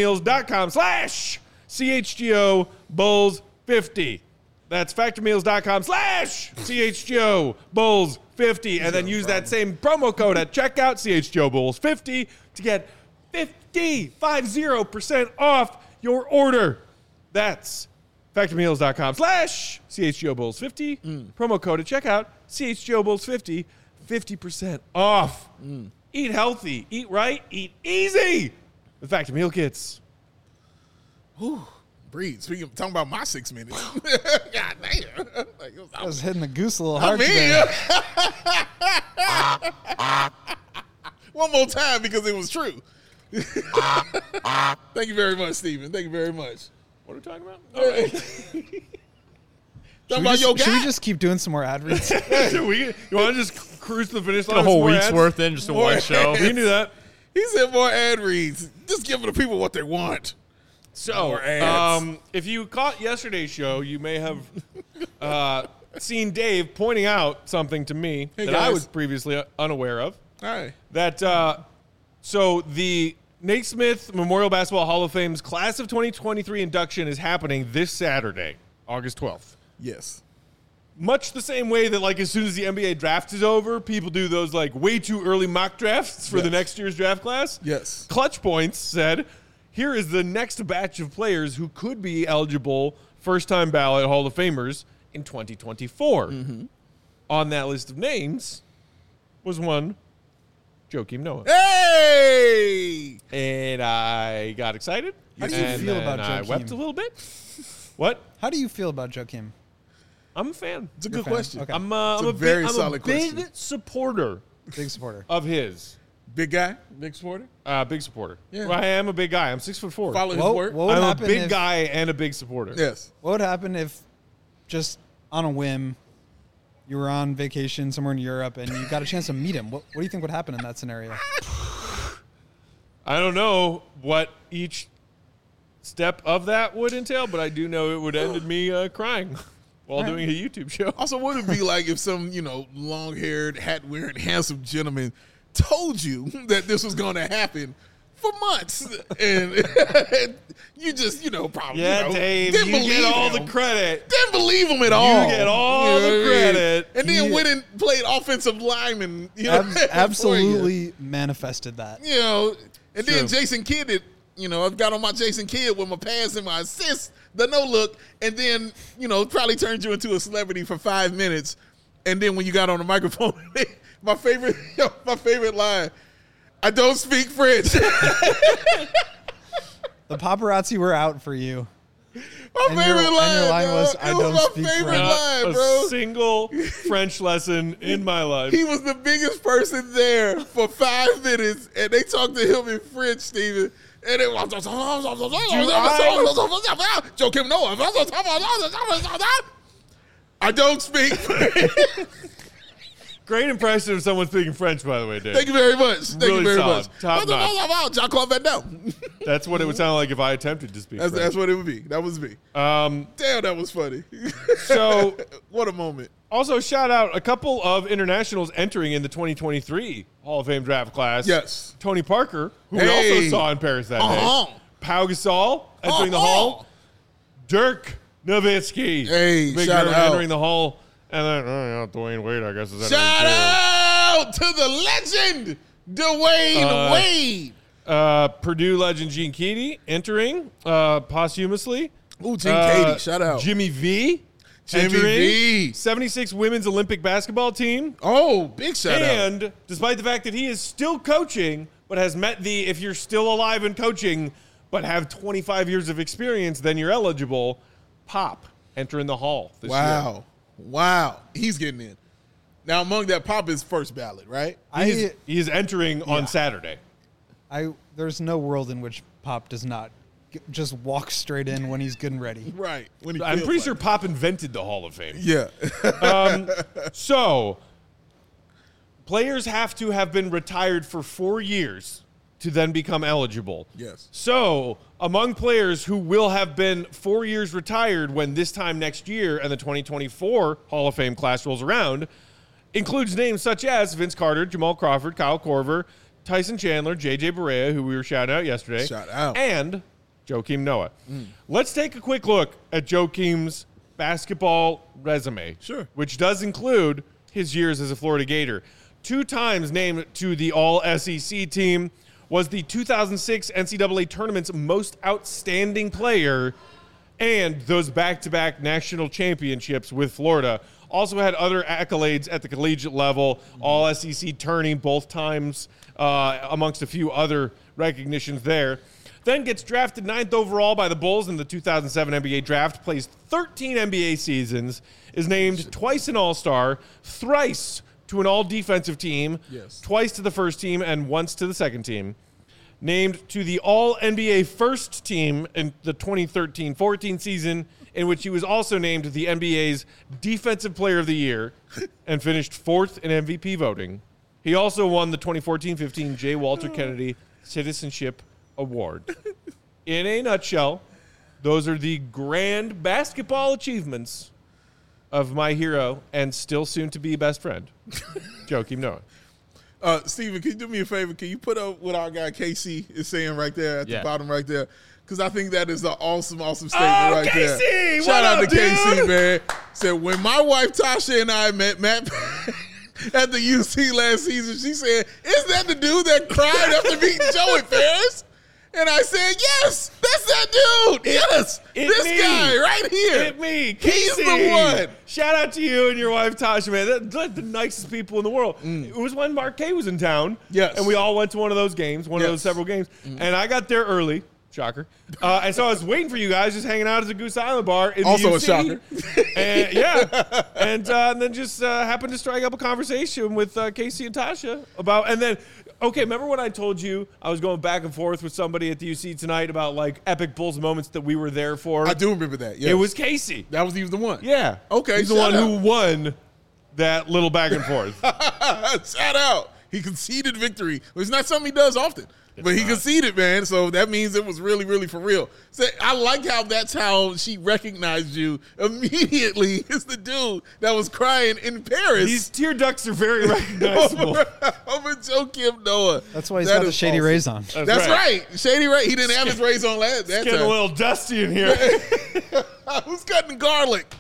factormeals.com/CHGO Bulls 50. That's factormeals.com/CHGO Bulls 50. And then use that same promo code at checkout, CHGO Bulls 50, to get 50% off your order. That's factormeals.com/CHGO Bulls 50. Promo code at checkout, CHGO Bulls 50, 50% off. Eat healthy, eat right, eat easy with Factor Meal Kits. Breathe. Speaking of talking about my 6 minutes. God damn. Like, I was hitting the goose a little I hard today. mean, one more time because it was true. Thank you very much, Steven. Thank you very much. What are we talking about? Talking about your Should we guy. just keep doing some more ad reads? You want to just cruise to the finish line? A with whole more week's ads? worth in just in one show. We can do that. He said more ad reads. Just give the people what they want. So, More ads. if you caught yesterday's show, you may have seen Dave pointing out something to me Hey, that I guys. was previously unaware of. All right. That so the Naismith Memorial Basketball Hall of Fame's class of 2023 induction is happening this Saturday, August 12th. Yes. Much the same way that, like, as soon as the NBA draft is over, people do those, like, way too early mock drafts for the Yes. next year's draft class. Yes. Clutch Points said, here is the next batch of players who could be eligible first-time ballot Hall of Famers in 2024. On that list of names was one Joakim Noah. Hey! And I got excited. How do you and feel then about I Joakim? wept a little bit. What? How do you feel about Joakim? I'm a fan. It's a You're good a fan. question. Okay. I'm a a very big, solid big question. supporter Big supporter. of his. Big guy? Big supporter? Big supporter. Yeah. Well, I am a big guy. I'm 6'4". Follow his What, work? what would I'm a happen big if, guy and a big supporter. Yes. What would happen if, just on a whim, you were on vacation somewhere in Europe and you got a chance to meet him? What do you think would happen in that scenario? I don't know what each step of that would entail, but I do know it would end in me crying while All right. doing a YouTube show. Also, what would it be like if some, long-haired, hat-wearing, handsome gentleman told you that this was going to happen for months, and you just, probably, Yeah, Dave, didn't you believe get all him. the credit. Didn't believe him at all. get all know the what I mean? credit. and then He- went and played offensive lineman. For you. Absolutely manifested that. And True. then Jason Kidd, I've got on my Jason Kidd with my pass and my assist, the no look, and then, probably turned you into a celebrity for 5 minutes. And then when you got on the microphone, my favorite line, I don't speak French. The paparazzi were out for you. My And your- favorite and line, your line was, dog. "I It don't my speak favorite French." line, a bro. single French lesson in my life. He was the biggest person there for 5 minutes, and they talked to him in French, Steven. And it was Joakim Noah. I don't speak French. Great impression of someone speaking French, by the way, Dave. Thank you very much. Thank Really you very solid. much. Top notch. Jean-Claude Van Damme. That's what it would sound like if I attempted to speak That's French. what it would be. That was me. Damn, that was funny. So, What a moment. also shout out a couple of internationals entering in the 2023 Hall of Fame draft class. Yes. Tony Parker, who we Hey. also saw in Paris that Uh-huh. day. Pau Gasol entering the Hall. Dirk Nowitzki. Hey, Big shout Dirk out. entering the Hall. And then, Dwayne Wade, I guess, is entering Shout too. out to the legend, Dwayne Wade. Purdue legend Gene Keady entering posthumously. Ooh, Team Katie, shout out. Jimmy V. Jimmy entering V. 76 women's Olympic basketball team. Oh, big shout out. And despite the fact that he is still coaching, but has met the if you're still alive and coaching, but have 25 years of experience, then you're eligible, Pop entering the Hall this year. Wow. He's getting in. Now, among that, Pop is first ballot, right? He is entering on Saturday. There's no world in which Pop does not just walk straight in when he's good and ready. Right. When I'm pretty sure Pop invented the Hall of Fame. Yeah. So, players have to have been retired for 4 years to then become eligible. Yes. So, among players who will have been 4 years retired when this time next year and the 2024 Hall of Fame class rolls around, includes names such as Vince Carter, Jamal Crawford, Kyle Korver, Tyson Chandler, J.J. Barea, who we were shouting out yesterday. Shout out. And Joakim Noah. Let's take a quick look at Joakim's basketball resume. Sure. Which does include his years as a Florida Gator. 2 times named to the All-SEC team, was the 2006 NCAA Tournament's most outstanding player, and those back-to-back national championships with Florida. Also had other accolades at the collegiate level, All-SEC tourney both times, amongst a few other recognitions there. Then gets drafted 9th overall by the Bulls in the 2007 NBA draft, plays 13 NBA seasons, is named twice an All-Star, thrice to an All-Defensive team, twice to the first team, and once to the second team. Named to the All-NBA first team in the 2013-14 season, in which he was also named the NBA's Defensive Player of the Year and finished 4th in MVP voting. He also won the 2014-15 J. Walter Kennedy Citizenship Award. In a nutshell, those are the grand basketball achievements of my hero and still soon-to-be best friend, Joakim Noah. Steven, can you do me a favor? Can you put up what our guy Casey is saying right there at the bottom right there? Because I think that is an awesome statement right Casey! there. What Shout out up, to Casey, dude? man. Said, when my wife Tasha and I met Matt at the UC last season, she said, isn't that the dude that cried after meeting Joey Ferris? And I said, yes, that's that dude. Yes, this guy right here. Hit me. Casey. He's the one. Shout out to you and your wife, Tasha, man. They're the nicest people in the world. It was when Mark K was in town. Yes. And we all went to one of those games, one of those several games. And I got there early. Shocker. And so I was waiting for you guys, just hanging out at the Goose Island bar in Also the a UC. shocker. And, and then just happened to strike up a conversation with Casey and Tasha about, and then, okay, remember when I told you I was going back and forth with somebody at the UC tonight about like epic Bulls moments that we were there for? I do remember that. Yes. It was Casey. He was the one. Yeah. Okay, He's the shout one out. who won that little back and forth. Shout out. He conceded victory. It's not something he does often. But he conceded, man. So that means it was really, really for real. So I like how that's how she recognized you immediately. It's the dude that was crying in Paris. These tear ducts are very recognizable. Over Joakim Noah. That's why he's That got the is Shady awesome. Rays on. That's right. Shady Ray. He didn't have his rays on that It's getting a time. little dusty in here. Who's cutting garlic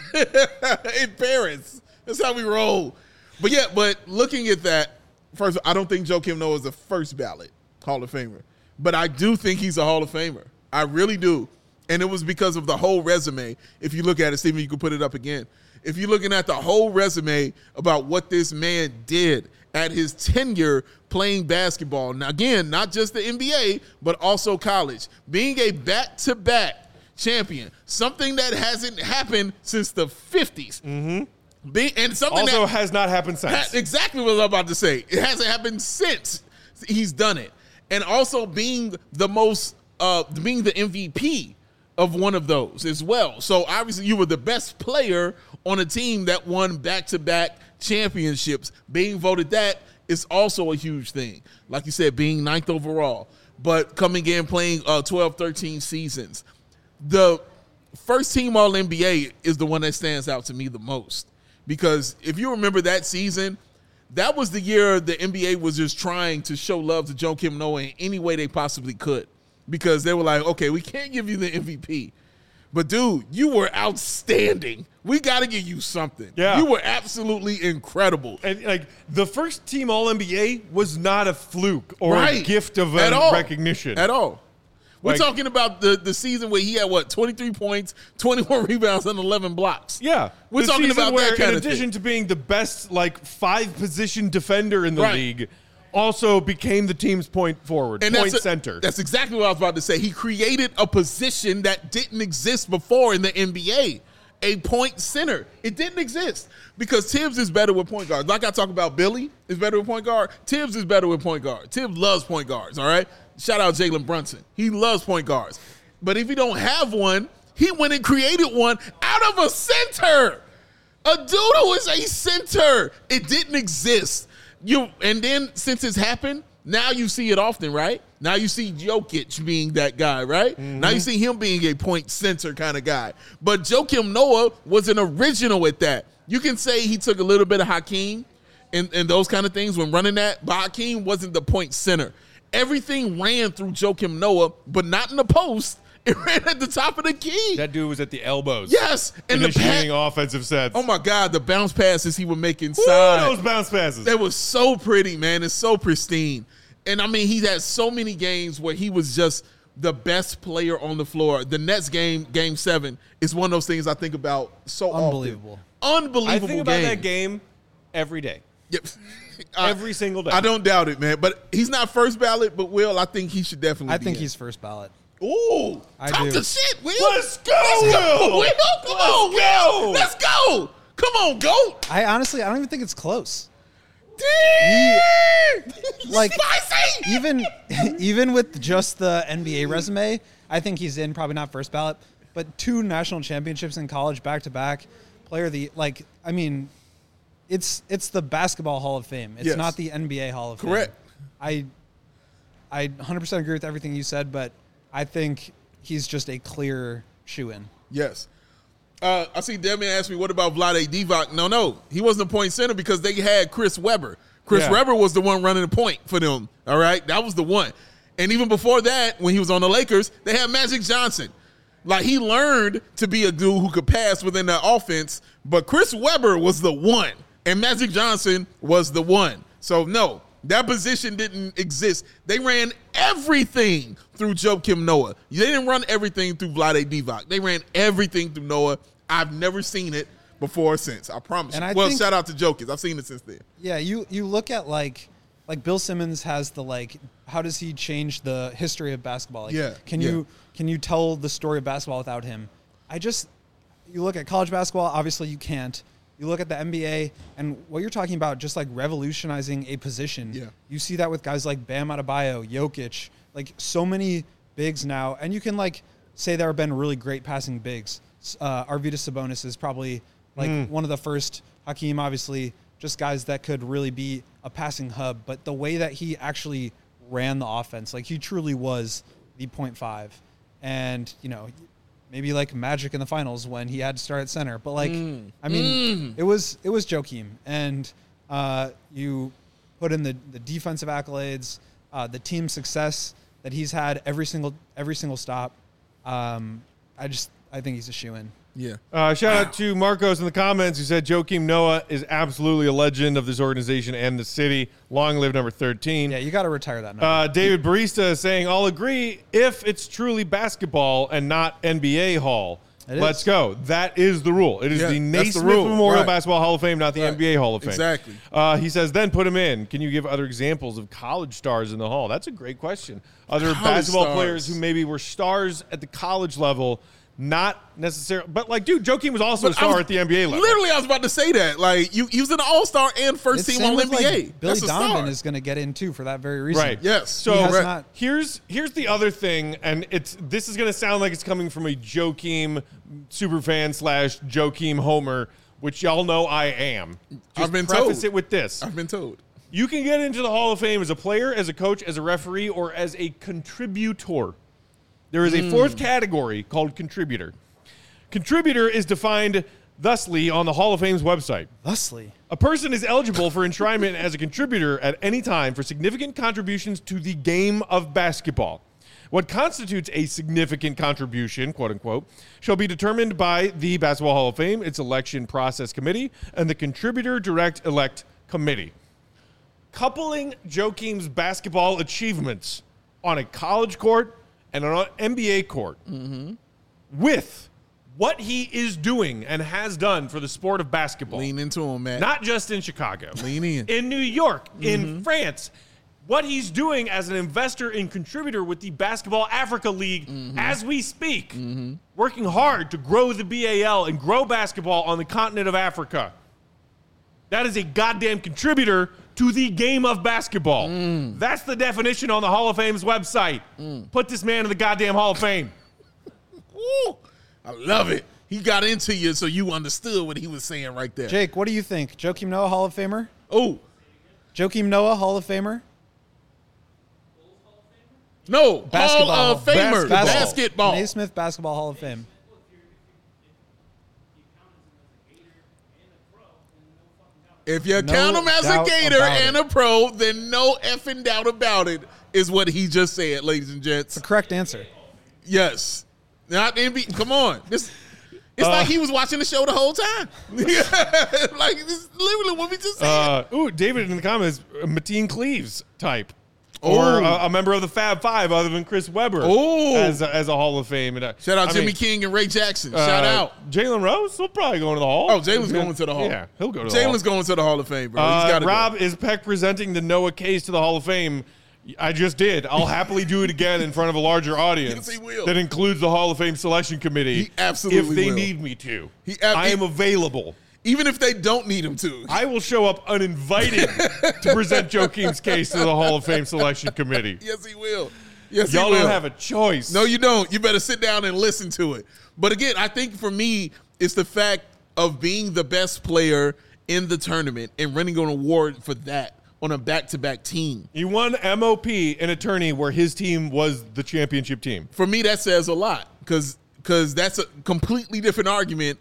in Paris? That's how we roll. But yeah, but looking at that, first, I don't think Joakim Noah is a first ballot Hall of Famer. But I do think he's a Hall of Famer. I really do. And it was because of the whole resume. If you look at it, Stephen, you can put it up again. If you're looking at the whole resume about what this man did at his tenure playing basketball. Now, again, not just the NBA, but also college. Being a back-to-back champion, something that hasn't happened since the 50s. And something Also that has not happened since. exactly what I was about to say. It hasn't happened since he's done it. And also being the most, being the MVP of one of those as well. So obviously you were the best player on a team that won back-to-back championships. Being voted that is also a huge thing. Like you said, being 9th overall, but coming in playing 12, 13 seasons. The first team All-NBA is the one that stands out to me the most. Because if you remember that season, that was the year the NBA was just trying to show love to Joakim Noah in any way they possibly could. Because they were like, okay, we can't give you the MVP. But, dude, you were outstanding. We got to give you something. Yeah. You were absolutely incredible. And, like, the first team All-NBA was not a fluke or Right. a gift of At all. recognition. At all. We're Like- talking about the season where he had, 23 points, 21 rebounds, and 11 blocks. Yeah, We're the talking season about where, that kind in of addition thing. to being the best 5-position defender in the Right. league, also became the team's point forward, And point that's center. That's exactly what I was about to say. He created a position that didn't exist before in the NBA, a point center. It didn't exist because Tibbs is better with point guards. Like I talk about, Billy is better with point guard. Tibbs is better with point guard. Tibbs loves point guards. All right. Shout out Jalen Brunson. He loves point guards. But if you don't have one, he went and created one out of a center. A dude who is a center. It didn't exist. And then since it's happened, now you see it often, right? Now you see Jokic being that guy, right? Now you see him being a point center kind of guy. But Joakim Noah was an original at that. You can say he took a little bit of Hakeem and those kind of things when running that, but Hakeem wasn't the point center. Everything ran through Joakim Noah, but not in the post. It ran at the top of the key. That dude was at the elbows. Yes. And the initiating offensive sets. oh my God, the bounce passes he would make inside. Woo, those bounce passes. That was so pretty, man. It's so pristine. And I mean, he had so many games where he was just the best player on the floor. The Nets game 7, is one of those things I think about so Unbelievable. often. Unbelievable I think about game. that game every day. Yep. Every single day. I don't doubt it, man. But he's not first ballot, but Will, I think he should definitely I be think in. he's first ballot. Ooh, I talk do. the shit, Will. Let's go, Will. Will. Come on, Will. Let's go. Come on, GOAT. I don't even think it's close. Damn. Like Spicy. even with just the NBA resume, I think he's in, probably not first ballot, but 2 national championships in college back to back, it's the Basketball Hall of Fame. It's Yes. not the NBA Hall of Fame. Correct. I 100% agree with everything you said, but I think he's just a clear shoe-in. Yes. I see Devin asked me, what about Vlade Divac? No. He wasn't a point center because they had Chris Webber. Chris Yeah. Webber was the one running the point for them. All right? That was the one. And even before that, when he was on the Lakers, they had Magic Johnson. Like, he learned to be a dude who could pass within that offense, but Chris Webber was the one, and Magic Johnson was the one. So, no, that position didn't exist. They ran everything through Joakim Noah. They didn't run everything through Vlade Divac. They ran everything through Noah. I've never seen it before or since. I promise. And you. I Well, think- shout out to Jokic. I've seen it since then. Yeah, you look at like Bill Simmons has the how does he change the history of basketball? Like, Yeah, Can you tell the story of basketball without him? You look at college basketball, obviously you can't. You look at the NBA and what you're talking about, just like revolutionizing a position. Yeah. You see that with guys like Bam Adebayo, Jokic, like so many bigs now. And you can say there have been really great passing bigs. Arvydas Sabonis is probably one of the first. Hakeem, obviously, just guys that could really be a passing hub. But the way that he actually ran the offense, he truly was the 0.5. And, maybe Magic in the finals when he had to start at center. But it was Joakim. And you put in the defensive accolades, the team success that he's had every single stop. I think he's a shoo-in. Yeah. Shout out to Marcos in the comments who said Joakim Noah is absolutely a legend of this organization and the city. Long live number 13. Yeah, you got to retire that number. David Barista is saying, I'll agree if it's truly basketball and not NBA Hall. It is. Let's go. That is the rule. It is Yeah, the that's the Naismith rule. Memorial Right. Basketball Hall of Fame, not the Right. NBA Hall of Fame. Exactly. He says, then put him in. Can you give other examples of college stars in the Hall? That's a great question. Other College basketball stars. players who maybe were stars at the college level, not necessarily. But, dude, Joakim was also a star at the NBA level. Literally, I was about to say that. He was an all-star and first team same All with, NBA. Billy That's a Donovan star. is going to get in too for that very reason. Right. Yes. So He has not- here's the other thing, and this is going to sound like it's coming from a Joakim superfan / Joakim homer, which y'all know I am. Just I've been preface told. it with this. I've been told. You can get into the Hall of Fame as a player, as a coach, as a referee, or as a contributor. There is a fourth category called contributor. Contributor is defined thusly on the Hall of Fame's website. Thusly. A person is eligible for enshrinement as a contributor at any time for significant contributions to the game of basketball. What constitutes a significant contribution, quote unquote, shall be determined by the Basketball Hall of Fame, its election process committee, and the contributor direct elect committee. Coupling Joakim's basketball achievements on a college court and on an NBA court with what he is doing and has done for the sport of basketball. Lean into him, man. Not just in Chicago. Lean in. In New York, in France. What he's doing as an investor and contributor with the Basketball Africa League as we speak. Working hard to grow the BAL and grow basketball on the continent of Africa. That is a goddamn contributor to the game of basketball. That's the definition on the Hall of Fame's website. Put this man in the goddamn Hall of Fame. Ooh, I love it. He got into you so you understood what he was saying right there. Jake, what do you think? Joakim Noah, Hall of Famer? Oh, Joakim Noah, Hall of Famer? no. Basketball. Hall of Famer. Basketball. Naismith Basketball Hall of Fame. If you No count him as a doubt Gator about and it. a pro, then no effing doubt about it is what he just said, ladies and gents. The correct answer. Yes. Not NBA. Come on. It's like he was watching the show the whole time. Like, this is literally what we just said. David in the comments, Mateen Cleaves type. Or a member of the Fab Five other than Chris Webber as a Hall of Fame. And, Shout out Jimmy King and Ray Jackson. Shout out. Jalen Rose will probably go into the Hall. Oh, Jalen's going to the Hall. Yeah, he'll go to the Hall. Jalen's going to the Hall of Fame, bro. He's got to Rob, is Peck presenting the Noah case to the Hall of Fame? I just did. I'll happily do it again in front of a larger audience. Yes, he will. That includes the Hall of Fame selection committee. He absolutely if they will. need me to. I I am available. Even if they don't need him to. I will show up uninvited to present Joakim's case to the Hall of Fame selection committee. Yes, he will. Yes, Y'all he will. don't have a choice. No, you don't. You better sit down and listen to it. But again, I think for me, it's the fact of being the best player in the tournament and winning an award for that on a back-to-back team. He won MOP, an attorney where his team was the championship team. For me, that says a lot because that's a completely different argument.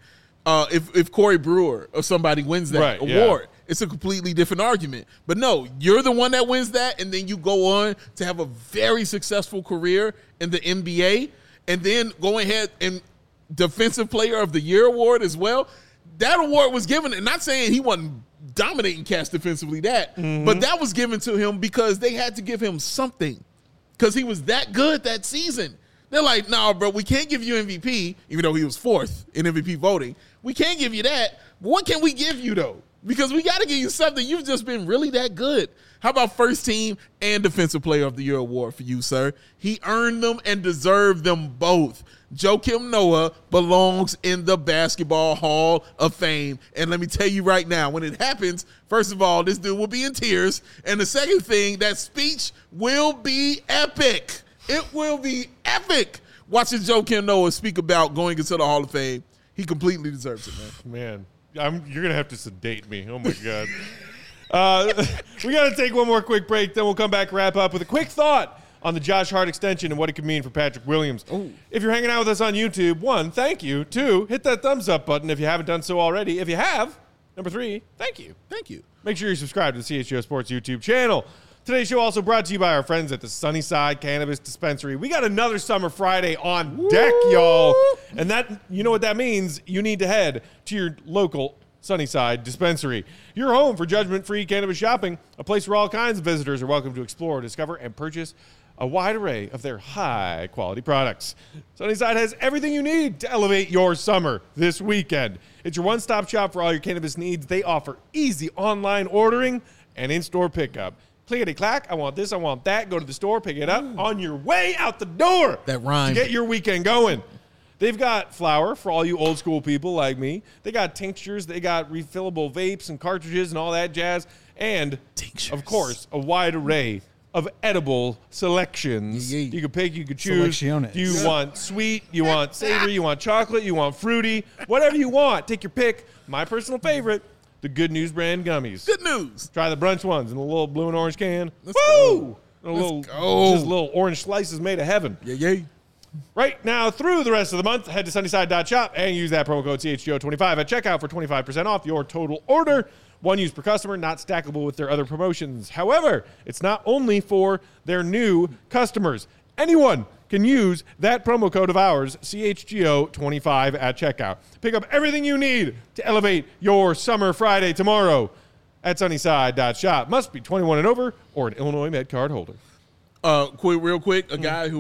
If Corey Brewer or somebody wins that award, it's a completely different argument. But no, you're the one that wins that, and then you go on to have a very successful career in the NBA, and then go ahead and Defensive Player of the Year award as well. That award was given, and not saying he wasn't dominating cats defensively, but that was given to him because they had to give him something because he was that good that season. They're like, nah, bro, we can't give you MVP, even though he was fourth in MVP voting. We can't give you that. But what can we give you, though? Because we got to give you something. You've just been really that good. How about first team and Defensive Player of the Year award for you, sir? He earned them and deserved them both. Joakim Noah belongs in the Basketball Hall of Fame. And let me tell you right now, when it happens, first of all, this dude will be in tears. And the second thing, that speech will be epic. It will be epic. Watching Joakim Noah speak about going into the Hall of Fame, he completely deserves it, man. Man, you're going to have to sedate me. Oh, my God. We got to take one more quick break. Then we'll come back, wrap up with a quick thought on the Josh Hart extension and what it could mean for Patrick Williams. Ooh. If you're hanging out with us on YouTube, 1, thank you. 2, hit that thumbs up button if you haven't done so already. If you have, number 3, thank you. Thank you. Make sure you subscribe to the CHGO Sports YouTube channel. Today's show also brought to you by our friends at the Sunnyside Cannabis Dispensary. We got another Summer Friday on deck, y'all. And that, you know what that means? You need to head to your local Sunnyside Dispensary. Your home for judgment-free cannabis shopping, a place where all kinds of visitors are welcome to explore, discover, and purchase a wide array of their high-quality products. Sunnyside has everything you need to elevate your summer this weekend. It's your one-stop shop for all your cannabis needs. They offer easy online ordering and in-store pickup. Clickety-clack, I want this, I want that. Go to the store, pick it up on your way out the door. That rhyme. To get your weekend going. They've got flour for all you old school people like me. They got tinctures. They got refillable vapes and cartridges and all that jazz. And, of course, a wide array of edible selections. Yeah. You can pick, you can choose. Selecciones. Do you want sweet? You want savory? You want chocolate? You want fruity? Whatever you want. Take your pick. My personal favorite, the Good News brand gummies. Good news. Try the brunch ones in a little blue and orange can. Let's Woo! go. Just little orange slices made of heaven. Yeah. Right now through the rest of the month, head to sunnyside.shop and use that promo code CHGO25 at checkout for 25% off your total order. One use per customer, not stackable with their other promotions. However, it's not only for their new customers. Anyone can use that promo code of ours, CHGO25 at checkout. Pick up everything you need to elevate your summer Friday tomorrow at sunnyside.shop. Must be 21 and over or an Illinois Med card holder. Real quick, a guy who was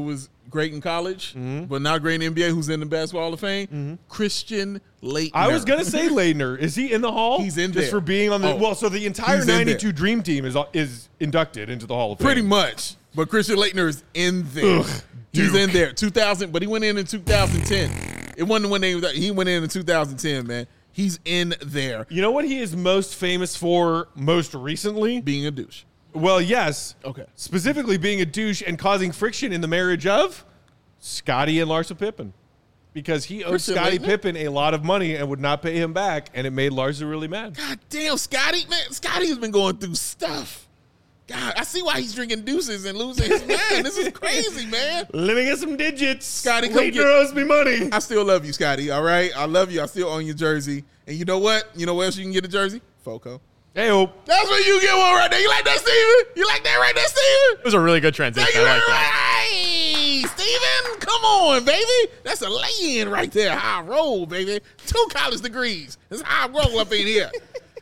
great in college, but not great in NBA, who's in the Basketball Hall of Fame? Christian Laettner. I was gonna say Leitner. Is he in the Hall? He's in just there. for being on the. Oh, well, so the entire he's in '92 there. Dream Team is inducted into the Hall of Fame. Pretty much. But Christian Laettner is in there. He's in there. 2000, but he went in 2010. It wasn't when he went in 2010, man. He's in there. You know what he is most famous for most recently? Being a douche. Well, yes. Okay. Specifically being a douche and causing friction in the marriage of Scottie and Larsa Pippen. Because he owed Christian Scottie Laettner? Pippen a lot of money and would not pay him back, and it made Larsa really mad. God damn, Scotty. Man, Scotty has been going through stuff. God, I see why he's drinking deuces and losing his mind. This is crazy, man. Let me get some digits. Scottie, come Leitner get- owes me money. I still love you, Scotty, all right? I love you. I still own your jersey. And you know what? You know where else you can get a jersey? Foco. Hey-o. That's where you get one right there. You like that, Steven? You like that right there, Steven? It was a really good transition. Thank you I very like much. that. Hey, Steven, come on, baby. That's a lay-in right there. How I roll, baby. 2 college degrees. That's how I roll up in here.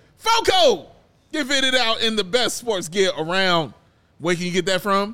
Foco. Get fitted out in the best sports gear around. Where can you get that from?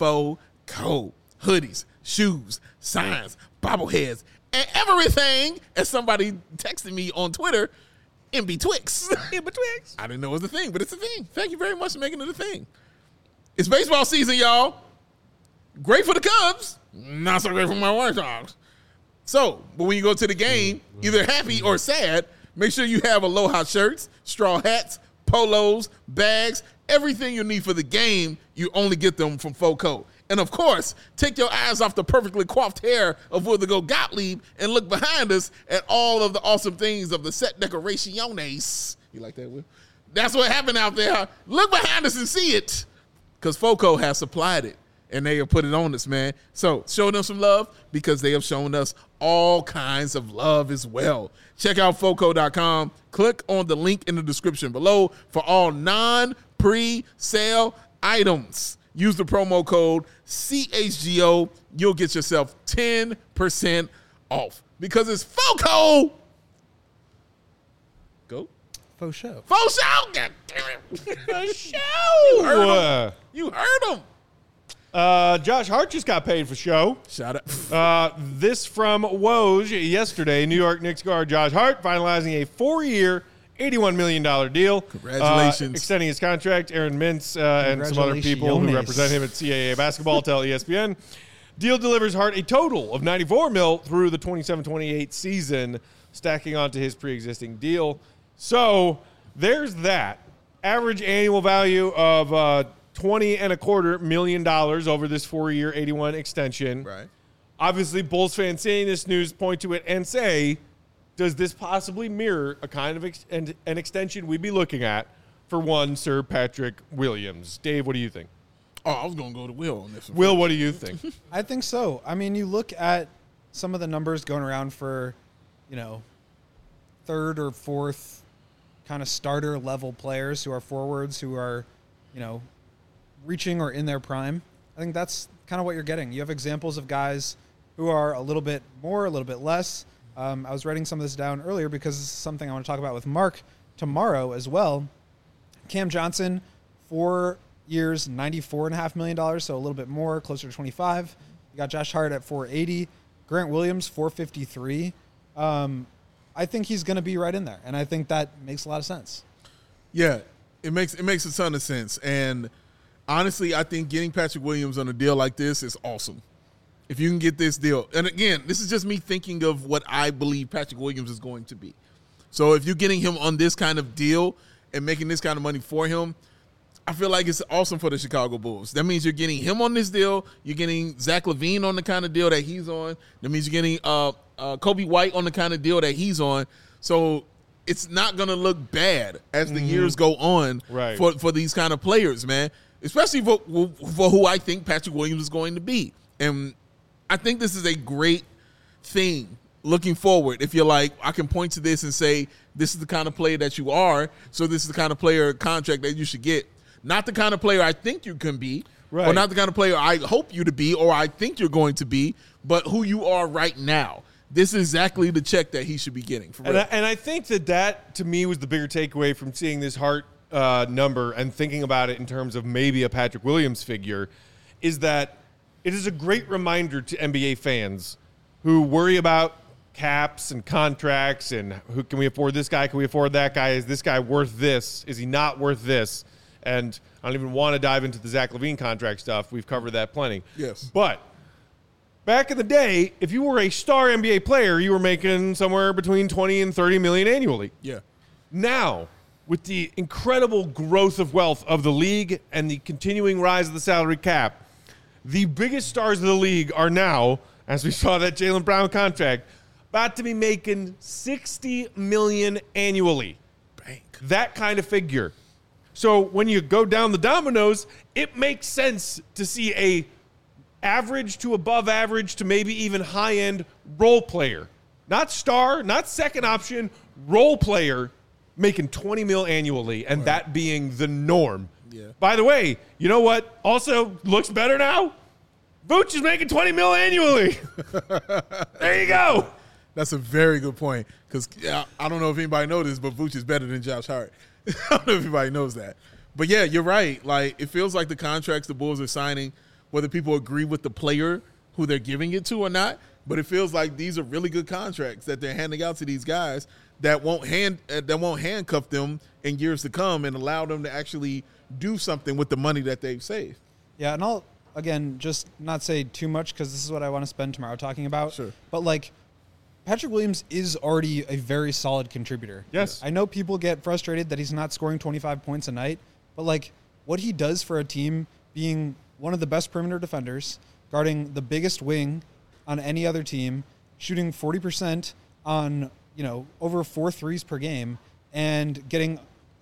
Foco. Hoodies, shoes, signs, bobbleheads, and everything. As somebody texted me on Twitter, MB Twix. MB Twix. I didn't know it was a thing, but it's a thing. Thank you very much for making it a thing. It's baseball season, y'all. Great for the Cubs. Not so great for my White Sox. So, but when you go to the game, either happy or sad, make sure you have Aloha shirts, straw hats, polos, bags, everything you need for the game. You only get them from Foco. And of course, take your eyes off the perfectly coiffed hair of Willigo Gottlieb and look behind us at all of the awesome things of the set decoraciones. You like that, Will? That's what happened out there. Look behind us and see it, because Foco has supplied it, and they have put it on us, man. So show them some love, because they have shown us all kinds of love as well. Check out Foco.com. Click on the link in the description below for all non-pre-sale items. Use the promo code CHGO. You'll get yourself 10% off, because it's Foco. Go. Faux show. Faux show. God damn it. Faux show. You heard him. You heard him. Josh Hart just got paid for show. Shout out. This from Woj yesterday. New York Knicks guard Josh Hart finalizing a 4-year, $81 million deal. Congratulations. Extending his contract. Aaron Mintz and some other people who represent him at CAA basketball tell ESPN. Deal delivers Hart a total of $94 million through the 27-28 season, stacking onto his pre-existing deal. So there's that. Average annual value of $20.25 million over this 4-year 81 extension. Right. Obviously, Bulls fans seeing this news point to it and say, does this possibly mirror a kind of an extension we'd be looking at for one Sir Patrick Williams? Dave, what do you think? Oh, I was going to go to Will on this one. Will, what do you think? I think so. I mean, you look at some of the numbers going around for, third or fourth kind of starter level players who are forwards, who are, reaching or in their prime. I think that's kind of what you're getting. You have examples of guys who are a little bit more, a little bit less. I was writing some of this down earlier because this is something I want to talk about with Mark tomorrow as well. Cam Johnson, 4 years, $94.5 million, so a little bit more, closer to 25. You got Josh Hart at $480. Grant Williams, $453. I think he's going to be right in there, and I think that makes a lot of sense. Yeah, it makes a ton of sense. And honestly, I think getting Patrick Williams on a deal like this is awesome. If you can get this deal. And again, this is just me thinking of what I believe Patrick Williams is going to be. So if you're getting him on this kind of deal and making this kind of money for him, I feel like it's awesome for the Chicago Bulls. That means you're getting him on this deal. You're getting Zach LaVine on the kind of deal that he's on. That means you're getting Kobe White on the kind of deal that he's on. So it's not going to look bad as the years go on for these kind of players, man, especially for who I think Patrick Williams is going to be. And I think this is a great thing looking forward. If you're like, I can point to this and say, this is the kind of player that you are, so this is the kind of player contract that you should get. Not the kind of player I think you can be, or not the kind of player I hope you to be, or I think you're going to be, but who you are right now. This is exactly the check that he should be getting. For real. And I think that to me was the bigger takeaway from seeing this Hart number and thinking about it in terms of maybe a Patrick Williams figure, is that it is a great reminder to NBA fans who worry about caps and contracts and who can we afford this guy? Can we afford that guy? Is this guy worth this? Is he not worth this? And I don't even want to dive into the Zach LaVine contract stuff. We've covered that plenty. Yes. But back in the day, if you were a star NBA player, you were making somewhere between 20 and 30 million annually. Yeah. Now, with the incredible growth of wealth of the league and the continuing rise of the salary cap, the biggest stars of the league are now, as we saw that Jaylen Brown contract, about to be making $60 million annually. Bank. That kind of figure. So when you go down the dominoes, it makes sense to see a average to above average to maybe even high-end role player. Not star, not second option, role player making $20 million annually, and that being the norm. Yeah. By the way, you know what also looks better now? Vooch is making $20 million annually. There you go. That's a very good point because I don't know if anybody knows this, but Vooch is better than Josh Hart. I don't know if everybody knows that. But, yeah, you're right. Like, it feels like the contracts the Bulls are signing, whether people agree with the player who they're giving it to or not, but it feels like these are really good contracts that they're handing out to these guys that won't handcuff them in years to come and allow them to actually do something with the money that they've saved. Yeah, and I'll, again, just not say too much because this is what I want to spend tomorrow talking about. Sure. But, like, Patrick Williams is already a very solid contributor. Yes. I know people get frustrated that he's not scoring 25 points a night, but, like, what he does for a team being one of the best perimeter defenders, guarding the biggest wing on any other team, shooting 40% on, over 4 threes per game, and getting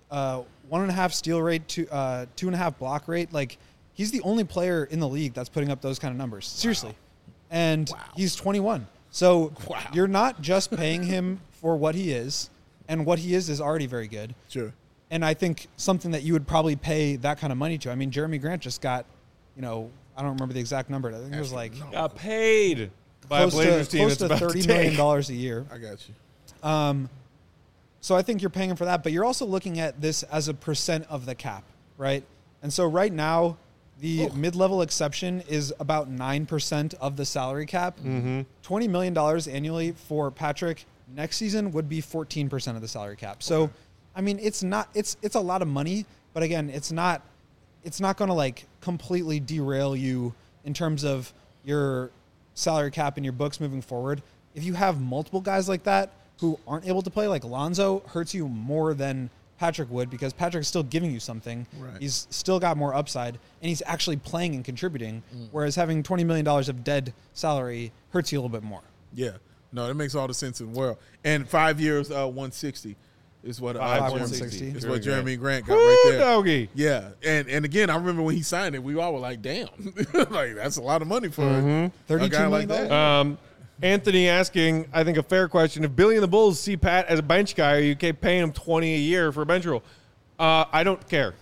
1.5 steal rate to 2.5 block rate. Like, he's the only player in the league that's putting up those kind of numbers. Seriously. Wow. And he's 21. So you're not just paying him for what he is, and what he is already very good. Sure. And I think something that you would probably pay that kind of money to. I mean, Jeremy Grant just got, I don't remember the exact number. I think it was like Got paid by a Blazers team close that's to about to $30 take. million a year. I got you. So I think you're paying him for that, but you're also looking at this as a percent of the cap, right? And so right now, the mid-level exception is about 9% of the salary cap. Mm-hmm. $20 million annually for Patrick next season would be 14% of the salary cap. So, I mean, it's a lot of money, but again, it's not going to like completely derail you in terms of your salary cap and your books moving forward. If you have multiple guys like that who aren't able to play, like Lonzo hurts you more than Patrick would because Patrick's still giving you something. Right. He's still got more upside, and he's actually playing and contributing, whereas having $20 million of dead salary hurts you a little bit more. Yeah. No, that makes all the sense in the world. And 5 years, 160 is what 160 is what Jeremy Grant got Woo, right there. doggy. Yeah. And again, I remember when he signed it, we all were like, damn. Like, that's a lot of money for a $32 guy like million. that. Anthony asking, I think, a fair question. If Billy and the Bulls see Pat as a bench guy, are you okay paying him $20 a year for a bench role? I don't care.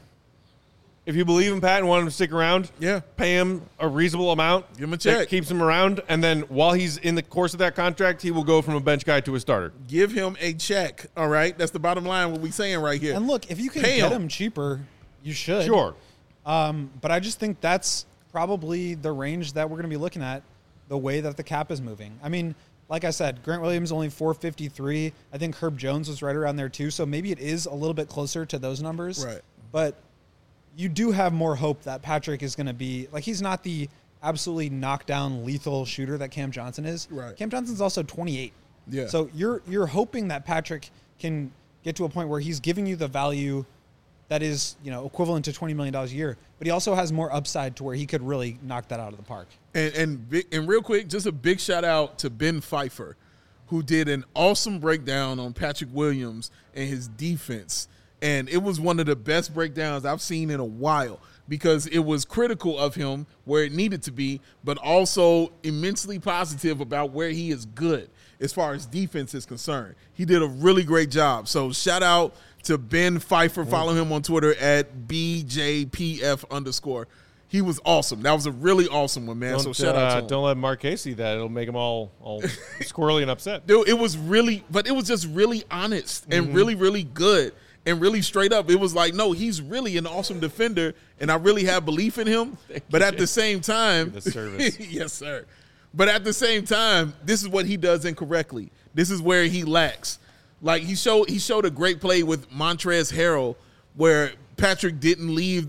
If you believe in Pat and want him to stick around, pay him a reasonable amount. Give him a check. That keeps him around, and then while he's in the course of that contract, he will go from a bench guy to a starter. Give him a check, all right? That's the bottom line, what we're saying right here. And look, if you can Pay get him. him cheaper, you should. Sure. But I just think that's probably the range that we're going to be looking at, the way that the cap is moving. I mean, like I said, Grant Williams only 453. I think Herb Jones was right around there too. So maybe it is a little bit closer to those numbers. Right. But you do have more hope that Patrick is going to be like, he's not the absolutely knockdown lethal shooter that Cam Johnson is. Right. Cam Johnson's also 28. Yeah. So you're hoping that Patrick can get to a point where he's giving you the value that is, equivalent to $20 million a year, but he also has more upside to where he could really knock that out of the park. And real quick, just a big shout out to Ben Pfeiffer, who did an awesome breakdown on Patrick Williams and his defense. And it was one of the best breakdowns I've seen in a while because it was critical of him where it needed to be, but also immensely positive about where he is good as far as defense is concerned. He did a really great job. So shout out to Ben Pfeiffer. Follow him on Twitter at BJPF_. He was awesome. That was a really awesome one, man. So shout out to him. Don't let Mark Casey see that. It'll make him all squirrely and upset. Dude, it was just really honest and really, really good. and really straight up. It was like, no, he's really an awesome defender, and I really have belief in him. But at the same time, the service. yes, sir. But at the same time, this is what he does incorrectly. This is where he lacks. Like he showed a great play with Montrezl Harrell where Patrick didn't leave.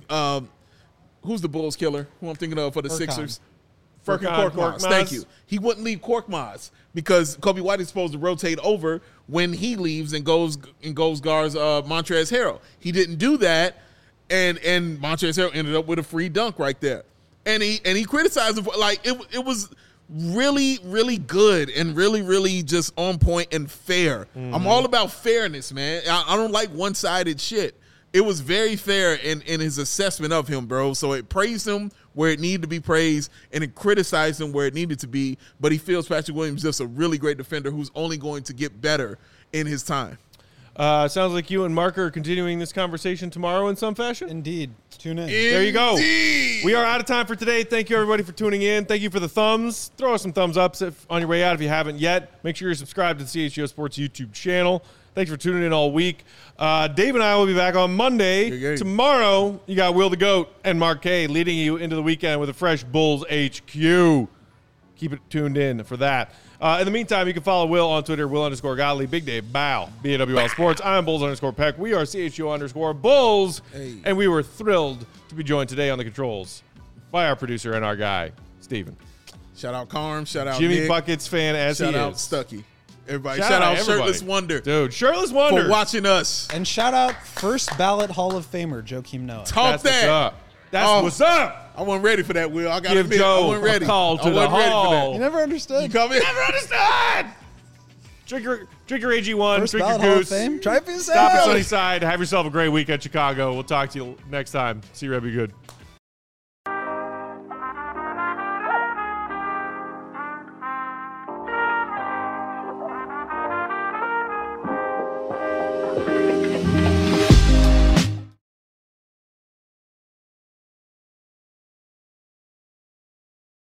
Who's the Bulls killer? Who I'm thinking of for the Sixers? Furkan Korkmaz. Korkmaz. Thank you. He wouldn't leave Korkmaz because Kobe White is supposed to rotate over when he leaves and goes guards Montrezl Harrell. He didn't do that, and Montrezl Harrell ended up with a free dunk right there. And he criticized him for, like it was really, really good and really, really just on point and fair. I'm all about fairness, man. I don't like one-sided shit. It was very fair in his assessment of him, bro. So it praised him where it needed to be praised, and it criticized him where it needed to be. But he feels Patrick Williams is just a really great defender who's only going to get better in his time. Sounds like you and Mark are continuing this conversation tomorrow in some fashion. Indeed. Tune in. There you go. Indeed. We are out of time for today. Thank you, everybody, for tuning in. Thank you for the thumbs. Throw us some thumbs ups on your way out if you haven't yet. Make sure you're subscribed to the CHGO Sports YouTube channel. Thanks for tuning in all week. Dave and I will be back on Monday. Yeah. Tomorrow, you got Will the Goat and Mark K leading you into the weekend with a fresh Bulls HQ. Keep it tuned in for that. In the meantime, you can follow Will on Twitter, Will_Godley, Big Dave Bow, BAWL Sports. I'm Bulls_Peck. We are CHGO_Bulls. Hey. And we were thrilled to be joined today on the controls by our producer and our guy, Steven. Shout out Carm. Shout out Jimmy Nick. Buckets fan as Shout he out is. Stuckey. Everybody. Shout Shout out out everybody. Shirtless Wonder Dude, Shirtless Wonder. for watching us. And shout out first ballot Hall of Famer, Joakim Noah. Talk That's what's that. up. That's Oh. what's up. I wasn't ready for that, Will. I got to Give admit, I Joe wasn't ready. a call to I the wasn't ready for hall. You that. never understood. You come in. Never understood. Drink your AG1. First Drink ballot your Hall of goose. Fame. Try it for Stop at yourself. Sunnyside. Have yourself a great week at Chicago. We'll talk to you next time. See you, Red. Be good.